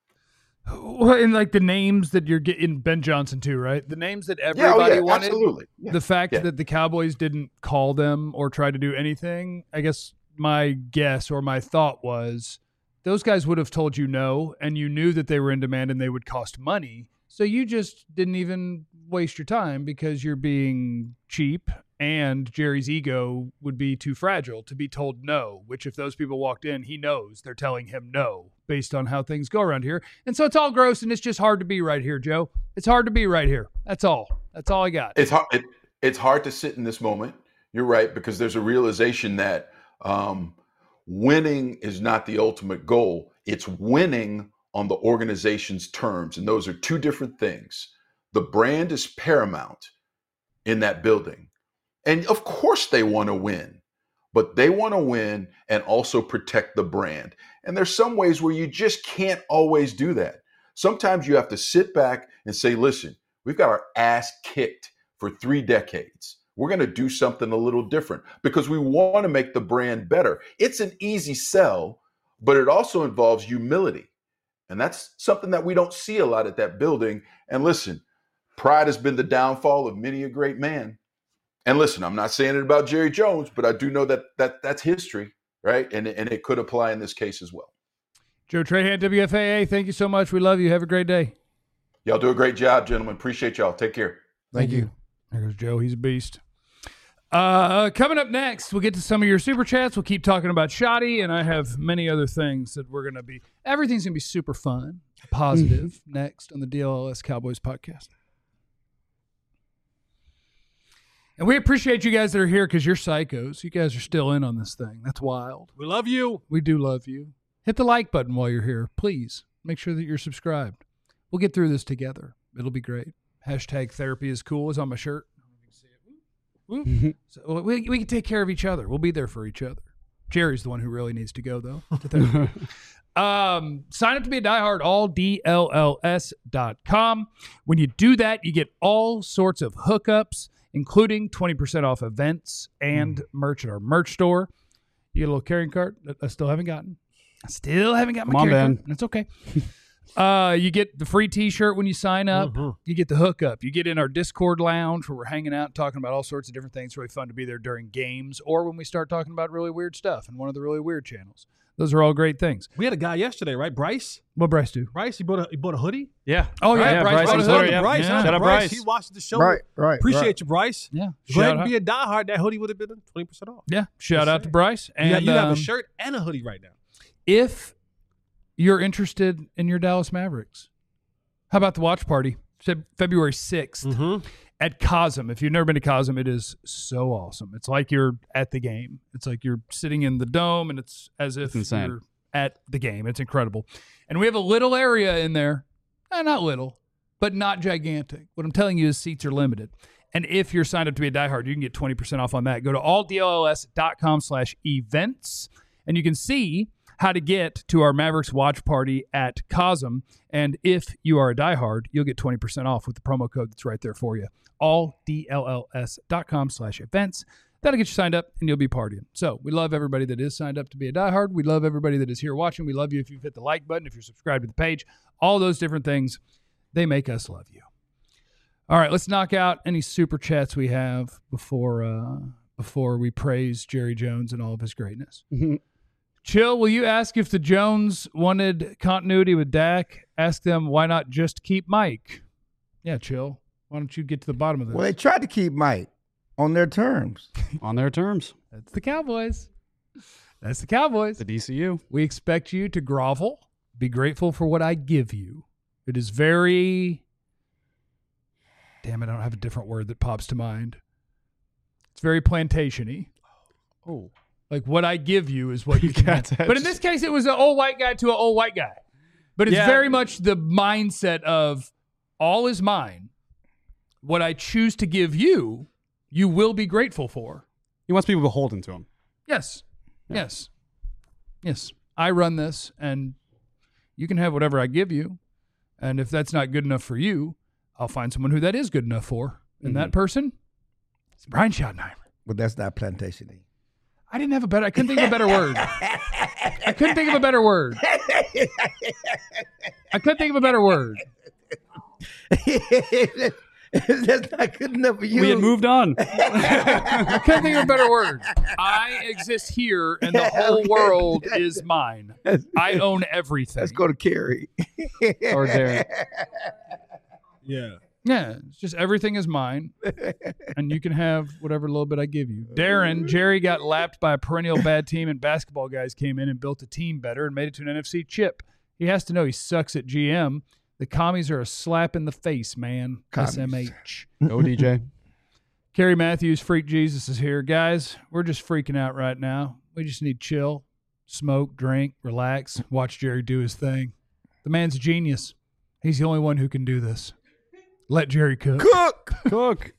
Well, and like the names that you're getting, Ben Johnson too, right? The names that Yeah, everybody oh yeah, wanted. absolutely. Yeah. The fact Yeah. that the Cowboys didn't call them or try to do anything, I guess my guess or my thought was those guys would have told you no, and you knew that they were in demand and they would cost money. So you just didn't even waste your time because you're being cheap, and Jerry's ego would be too fragile to be told no, which if those people walked in, he knows they're telling him no based on how things go around here. And so it's all gross, and it's just hard to be right here, Joe. It's hard to be right here. That's all. That's all I got. It's hard. It, it's hard to sit in this moment. You're right, because there's a realization that um, winning is not the ultimate goal. It's winning on the organization's terms, and those are two different things. The brand is paramount in that building, and of course they want to win, but they want to win and also protect the brand. And there's some ways where you just can't always do that. Sometimes you have to sit back and say, listen, we've got our ass kicked for three decades. We're going to do something a little different because we want to make the brand better. It's an easy sell, but it also involves humility. And that's something that we don't see a lot at that building. And listen, pride has been the downfall of many a great man. And listen, I'm not saying it about Jerry Jones, but I do know that that that's history, right? And, and it could apply in this case as well. Joe Trahan, W F A A, thank you so much. We love you. Have a great day. Y'all do a great job, gentlemen. Appreciate y'all. Take care. Thank you. There goes Joe. He's a beast. Uh, coming up next, we'll get to some of your super chats. We'll keep talking about Shoddy, and I have many other things that we're going to be – everything's going to be super fun, positive next on the D L L S Cowboys podcast. And we appreciate you guys that are here because you're psychos. You guys are still in on this thing. That's wild. We love you. We do love you. Hit the like button while you're here. Please make sure that you're subscribed. We'll get through this together. It'll be great. Hashtag therapy is cool is on my shirt. Woo. So we, we can take care of each other. We'll be there for each other. Jerry's the one who really needs to go, though. To therapy. um, sign up to be a diehard, all D L L S dot com. When you do that, you get all sorts of hookups, including twenty percent off events and mm. merch at our merch store. You get a little carrying cart that I still haven't gotten. I still haven't got my Come on, carrying Ben. cart. It's okay. Uh, you get the free T-shirt when you sign up. Mm-hmm. You get the hookup. You get in our Discord lounge where we're hanging out and talking about all sorts of different things. It's really fun to be there during games or when we start talking about really weird stuff in one of the really weird channels. Those are all great things. We had a guy yesterday, right? Bryce. What Bryce do? Bryce, he bought a he bought a hoodie. Yeah. Oh yeah, right? yeah Bryce, Bryce, brought was his there, hoodie. yeah. Bryce. Yeah. Shout Shout out out Bryce. Bryce. He watched the show. Right, right. Appreciate right. you, Bryce. Yeah. Go Shout ahead and out. be a diehard. That hoodie would have been twenty percent off. Yeah. Shout out to Bryce. And You, got- you have um, a shirt and a hoodie right now. if you're interested in your Dallas Mavericks, how about the watch party? Feb- February sixth Mm-hmm. at Cosm. If you've never been to Cosm, it is so awesome. It's like you're at the game. It's like you're sitting in the dome, and it's as if It's insane. you're at the game. It's incredible. And we have a little area in there. Eh, not little, but not gigantic. What I'm telling you is seats are limited. And if you're signed up to be a diehard, you can get twenty percent off on that. Go to all D L L S dot com slash events, and you can see how to get to our Mavericks watch party at Cosm. And if you are a diehard, you'll get twenty percent off with the promo code that's right there for you. all D L L S dot com slash events. That'll get you signed up, and you'll be partying. So we love everybody that is signed up to be a diehard. We love everybody that is here watching. We love you if you've hit the like button, if you're subscribed to the page. All those different things, they make us love you. All right, let's knock out any super chats we have before uh, before we praise Jerry Jones and all of his greatness. Chill, will you ask if the Jones wanted continuity with Dak? Ask them why not just keep Mike? Yeah, Chill. Why don't you get to the bottom of this? Well, they tried to keep Mike on their terms. On their terms. That's the Cowboys. That's the Cowboys. The D C U. We expect you to grovel, be grateful for what I give you. It is very... Damn it, I don't have a different word that pops to mind. It's very plantation-y. Oh. Like, what I give you is what you can Got have. that. But in this case, it was an old white guy to an old white guy. But it's Yeah. very much the mindset of all is mine. What I choose to give you, you will be grateful for. He wants people beholden to him. Yes. Yes. Yes. I run this, and you can have whatever I give you. And if that's not good enough for you, I'll find someone who that is good enough for. And Mm-hmm. that person is Brian Schottenheimer. But that's not plantation-y. I didn't have a better, I couldn't think of a better word. I couldn't think of a better word. I couldn't think of a better word. That's not good enough for you. We had moved on. I couldn't think of a better word. I exist here, and the whole world is mine. I own everything. Let's go to Kerry. Or Darren. Yeah. Yeah, it's just everything is mine, and you can have whatever little bit I give you. Darren, Jerry got lapped by a perennial bad team, and basketball guys came in and built a team better and made it to an N F C chip. He has to know he sucks at G M. The commies are a slap in the face, man. Commies. S M H. Go D J. Kerry Matthews, Freak Jesus is here. Guys, we're just freaking out right now. We just need chill, smoke, drink, relax, watch Jerry do his thing. The man's a genius. He's the only one who can do this. Let Jerry cook. Cook. Cook.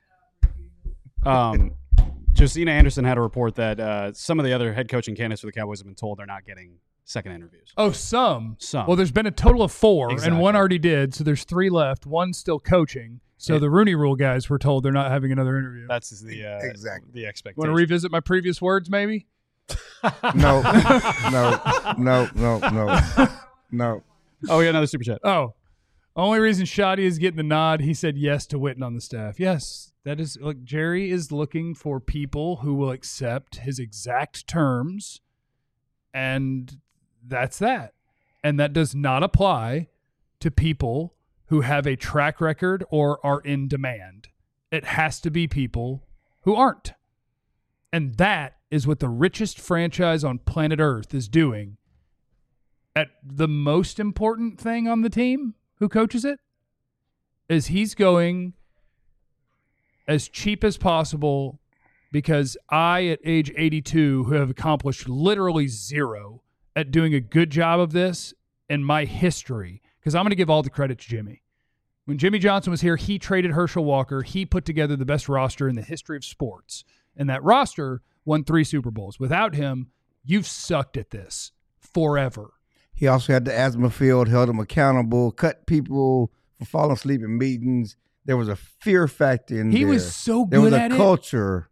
Um, Josina Anderson had a report that uh, some of the other head coaching candidates for the Cowboys have been told they're not getting second interviews. Oh, some. Some. Well, there's been a total of four, Exactly. and one already did, so there's three left. One's still coaching. So Yeah. the Rooney Rule guys were told they're not having another interview. That's the uh, Exactly. the Want expectation. to revisit my previous words, maybe? No, no, no, no, no, no. Oh, yeah, another super chat. Oh, only reason Shoddy is getting the nod, he said yes to Witten on the staff. Yes, that is. Look, Jerry is looking for people who will accept his exact terms, and that's that. And that does not apply to people who have a track record or are in demand. It has to be people who aren't. And that is what the richest franchise on planet Earth is doing at the most important thing on the team who coaches it is he's going as cheap as possible because I, at age eighty-two, who have accomplished literally zero at doing a good job of this in my history, because I'm going to give all the credit to Jimmy. When Jimmy Johnson was here, he traded Herschel Walker. He put together the best roster in the history of sports. And that roster won three Super Bowls. Without him, you've sucked at this forever. He also had the asthma field, held them accountable, cut people for falling asleep in meetings. There was a fear factor in he there. He was so there good was at a it. culture.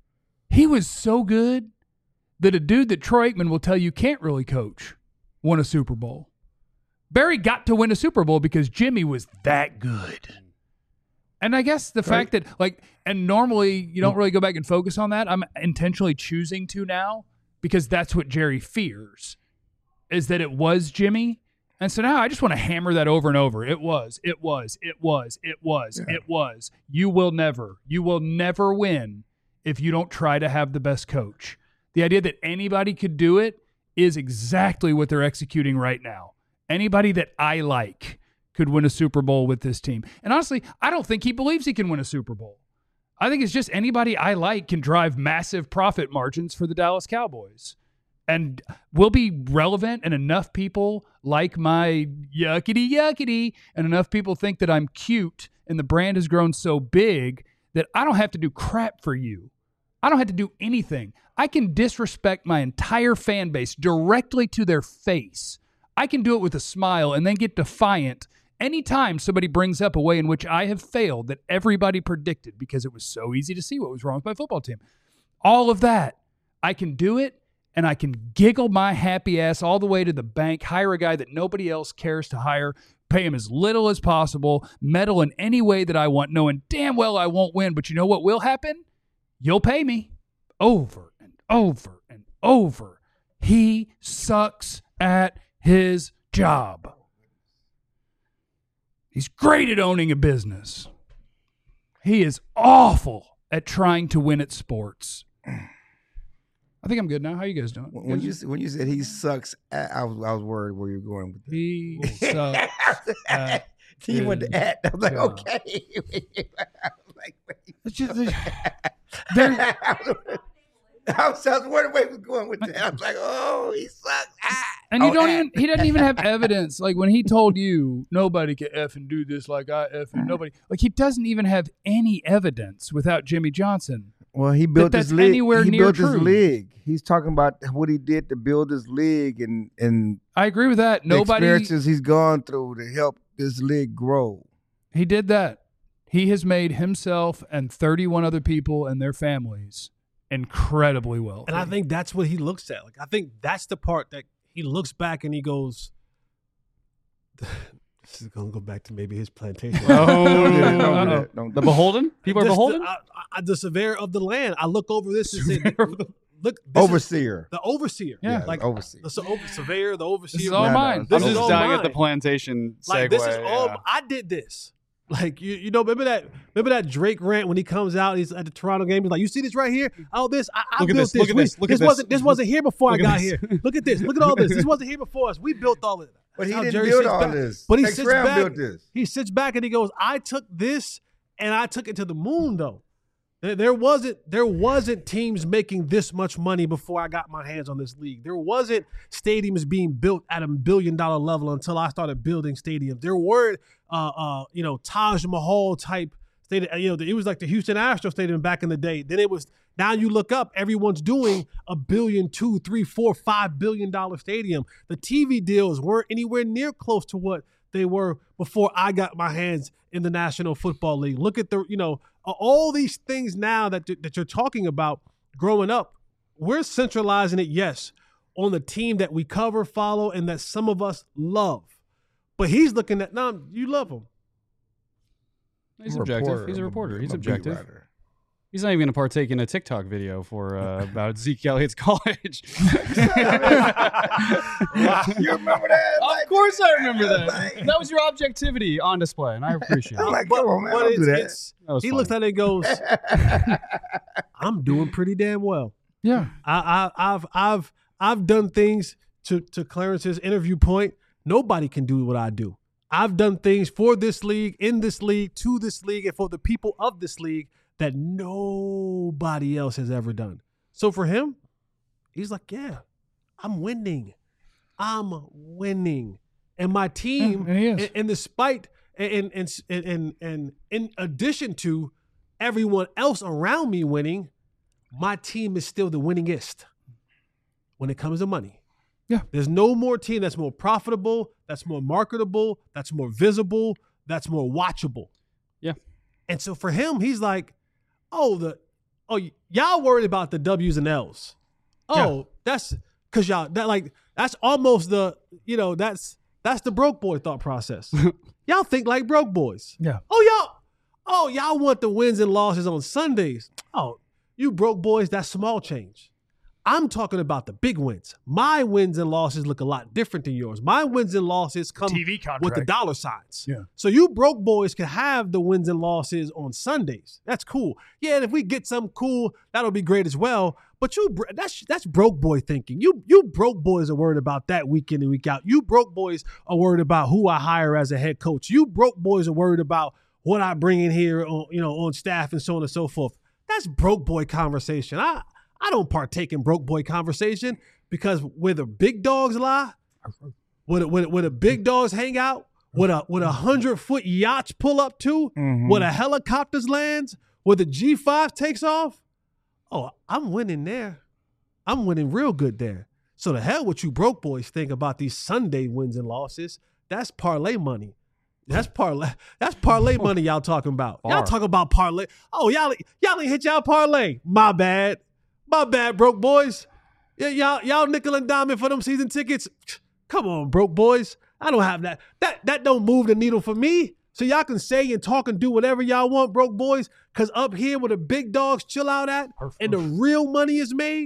He was so good that a dude that Troy Aikman will tell you can't really coach won a Super Bowl. Barry got to win a Super Bowl because Jimmy was that good. And I guess the right. fact that, like, and normally you don't really go back and focus on that. I'm intentionally choosing to now because that's what Jerry fears, is that it was Jimmy. And so now I just want to hammer that over and over. It was, it was, it was, it was, yeah. it was. You will never, you will never win if you don't try to have the best coach. The idea that anybody could do it is exactly what they're executing right now. Anybody that I like could win a Super Bowl with this team. And honestly, I don't think he believes he can win a Super Bowl. I think it's just anybody I like can drive massive profit margins for the Dallas Cowboys. And we'll be relevant, and enough people like my yuckity yuckity, and enough people think that I'm cute, and the brand has grown so big that I don't have to do crap for you. I don't have to do anything. I can disrespect my entire fan base directly to their face. I can do it with a smile and then get defiant anytime somebody brings up a way in which I have failed that everybody predicted because it was so easy to see what was wrong with my football team. All of that, I can do it, and I can giggle my happy ass all the way to the bank, hire a guy that nobody else cares to hire, pay him as little as possible, meddle in any way that I want, knowing damn well I won't win. But you know what will happen? You'll pay me over and over and over. He sucks at his job. He's great at owning a business. He is awful at trying to win at sports. I think I'm good now. How you guys doing? When you when you said he sucks, at, I was I was worried where you're going with that. He sucks. At he went to at. I was like, job. okay. I was like, wait. It's just, there, I was, I was wondering where he was going with that. I was like, oh, he sucks. Ah. And you oh, don't at. even, he doesn't even have evidence. Like when he told you, nobody can effing do this like I effing, nobody. Like he doesn't even have any evidence without Jimmy Johnson. Well, he built that this that's league. anywhere he near built true. this league. He's talking about what he did to build this league and, and I agree with that. the Nobody, experiences he's gone through to help this league grow. he did that. He has made himself and thirty-one other people and their families incredibly well. And I think that's what he looks at. Like I think that's the part that he looks back and he goes, this is going to go back to maybe his plantation. Oh, Don't do that. Don't do uh-oh. that. Don't do The that. beholden? People are This- beholden? The, I, I, the surveyor of the land. I look over this and say, look, this is Overseer. the overseer. Yeah, like overseer. the so, over, surveyor, the overseer. This is all No, no, mine. this I'm is just all dying at mine. the plantation segue. Like this is all yeah. I did this. Like you, you know, remember that? Remember that Drake rant when he comes out? He's at the Toronto game. He's like, "You see this right here? Oh, this I, I Look at built this, look at We- this, look at this. wasn't this wasn't here before Look I at got this. here. Look at this. Look at all this. This wasn't here before us. We built all of it." But he That's how didn't Jerry build sits all back. this. But he Tex sits Brown back. built this. He sits back and he goes, "I took this and I took it to the moon, though." There, there wasn't there wasn't teams making this much money before I got my hands on this league. There wasn't stadiums being built at a billion dollar level until I started building stadiums. There were, uh, uh, you know, Taj Mahal type stadium. You know, it was like the Houston Astros stadium back in the day. Then it was. Now you look up, everyone's doing a billion, two, three, four, five billion dollar stadium. The T V deals weren't anywhere near close to what they were before I got my hands in the National Football League. Look at the, you know, all these things now that that you're talking about growing up. We're centralizing it, yes, on the team that we cover, follow, and that some of us love. But he's looking at, no, you love him. He's I'm a objective. reporter. He's a I'm reporter. I'm He's a beat objective. writer. He's not even going to partake in a TikTok video for uh, about Zeke Elliott's college. You remember that? Of course I remember that. That was your objectivity on display, and I appreciate I'm it. like, come on, man, But don't it's, do that. it's That was he funny. looks at it and goes, I'm doing pretty damn well. Yeah. I, I, I've I've I've done things to to Clarence's interview point. Nobody can do what I do. I've done things for this league, in this league, to this league, and for the people of this league that nobody else has ever done. So for him, he's like, yeah, I'm winning. I'm winning. And my team, and he is. and, and despite, and, and, and, and, and in addition to everyone else around me winning, my team is still the winningest when it comes to money. Yeah. There's no more team that's more profitable, that's more marketable, that's more visible, that's more watchable. Yeah. And so for him, he's like, oh, the oh, y- y'all worried about the W's and L's. Oh, Yeah. that's because y'all that like that's almost the, you know, that's that's the broke boy thought process. Y'all think like broke boys. Yeah. Oh, y'all, oh, y'all want the wins and losses on Sundays. Oh, you broke boys, that's small change. I'm talking about the big wins. My wins and losses look a lot different than yours. My wins and losses come T V contract. with the dollar signs. Yeah. So you broke boys can have the wins and losses on Sundays. That's cool. Yeah, and if we get something cool, that'll be great as well. But you bro- that's that's broke boy thinking. You you broke boys are worried about that week in and week out. You broke boys are worried about who I hire as a head coach. You broke boys are worried about what I bring in here on, you know, on staff and so on and so forth. That's broke boy conversation. I I don't partake in broke boy conversation because where the big dogs lie, where the, where, the, where the big dogs hang out, where a where a hundred foot yachts pull up to, Mhm. where the helicopters lands, where the G five takes off. Oh, I'm winning there. I'm winning real good there. So the hell what you broke boys think about these Sunday wins and losses. That's parlay money. That's parlay. That's parlay money y'all talking about. Y'all Far. talking about parlay. Oh, y'all y'all ain't hit y'all parlay. My bad. My bad, broke boys. Yeah, y'all y'all nickel and diamond for them season tickets. Come on, broke boys. I don't have that. That that don't move the needle for me. So y'all can say and talk and do whatever y'all want, broke boys. Cause up here where the big dogs chill out at and the real money is made,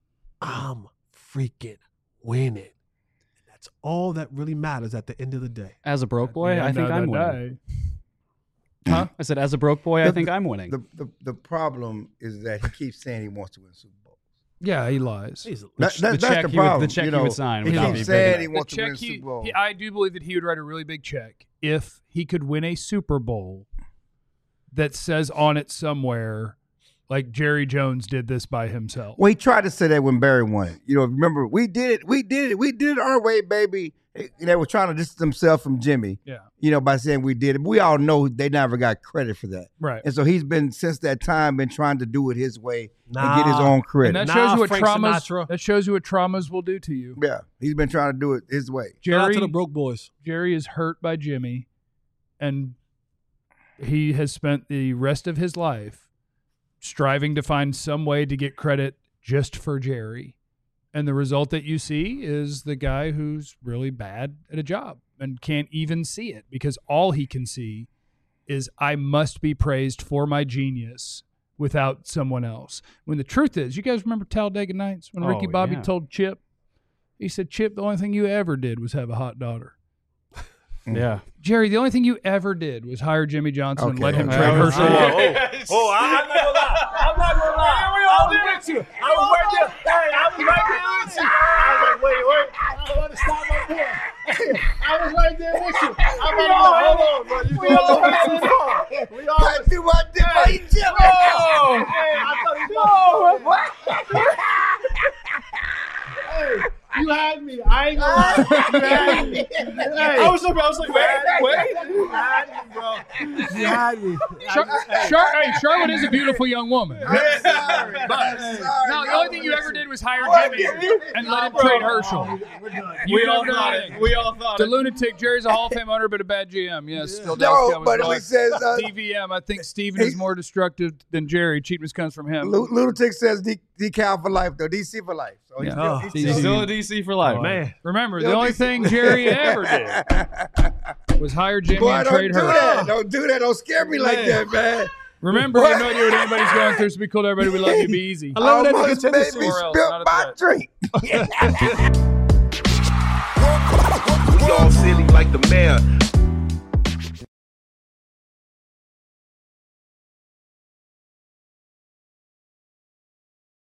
I'm freaking winning. That's all that really matters at the end of the day. As a broke boy, Yeah, I think no, I'm no, winning. no. Huh? I said, as a broke boy, I The- think I'm winning. The, the the problem is that he keeps saying he wants to win Super Bowl. Yeah, he lies. He's- The, That- ch- that- the that's check the he would, problem, the check you he know. would sign He would not keeps be saying big he enough. wants to check win he- Super Bowl. he- I do believe that he would write a really big check if he could win a Super Bowl that says on it somewhere, like Jerry Jones did this by himself. Well, he tried to say that when Barry won it. You know, remember, we did it, we did it, we did it our way, baby. And they were trying to distance themselves from Jimmy, Yeah, you know, by saying we did it. We all know they never got credit for that. right. And so he's been, since that time, been trying to do it his way Nah. and get his own And credit. that Nah, shows you what Frank traumas. Sinatra. That shows you what traumas will do to you. Yeah, he's been trying to do it his way. Shout out Jerry, to the broke boys. Jerry is hurt by Jimmy, and he has spent the rest of his life striving to find some way to get credit just for Jerry. And the result that you see is the guy who's really bad at a job and can't even see it because all he can see is I must be praised for my genius without someone else. When the truth is, you guys remember Talladega Nights when Ricky Oh, Bobby yeah. told Chip, he said, Chip, the only thing you ever did was have a hot daughter. Yeah. Jerry, the only thing you ever did was hire Jimmy Johnson and Okay. let him Uh, trade I was- Herschel. Oh, oh, I'm not gonna lie. I'm not gonna lie. I was with you. I was right there. Hey, I was right there with you. I was like, wait, wait. I don't want to stop my boy. I was right there with you. I'm like, hold on, bro. You going a little too far. We all I do what I did by Jimmy. Oh, hey, I thought you was about to Hey, you had me. I ain't gonna lie. You had me. Hey, I was like, I was like, you wait, had me. wait. You had me, bro. You had me. Char- Char- hey, Charlotte is a beautiful young woman. I'm sorry. I'm sorry. No, the only thing you ever did was hire What? Jimmy and let him Bro. trade Herschel. We're done. You We all don't thought know it. anything. We all thought The it. lunatic, Jerry's a Hall of Fame owner, but a bad G M. Yes, still No, but he says uh, D V M. I think Steven is more destructive than Jerry. Cheapness comes from him. Lu- Lunatic says D- decal for life, though. D C for life. So he's Yeah. still, Oh, he's D C. He's still, still a D C for life. Man. Remember, the Still only D C. thing Jerry ever did was hire Jimmy Boy, and don't trade do Herschel. that. Don't do that. Don't scare me like Man. that, man. Remember, you have no idea what anybody's going through, so be cool to everybody. We love you. Be easy. I love that Almost nigga made Tennessee. me Or else, spill not at my the drink. We all silly like the mayor.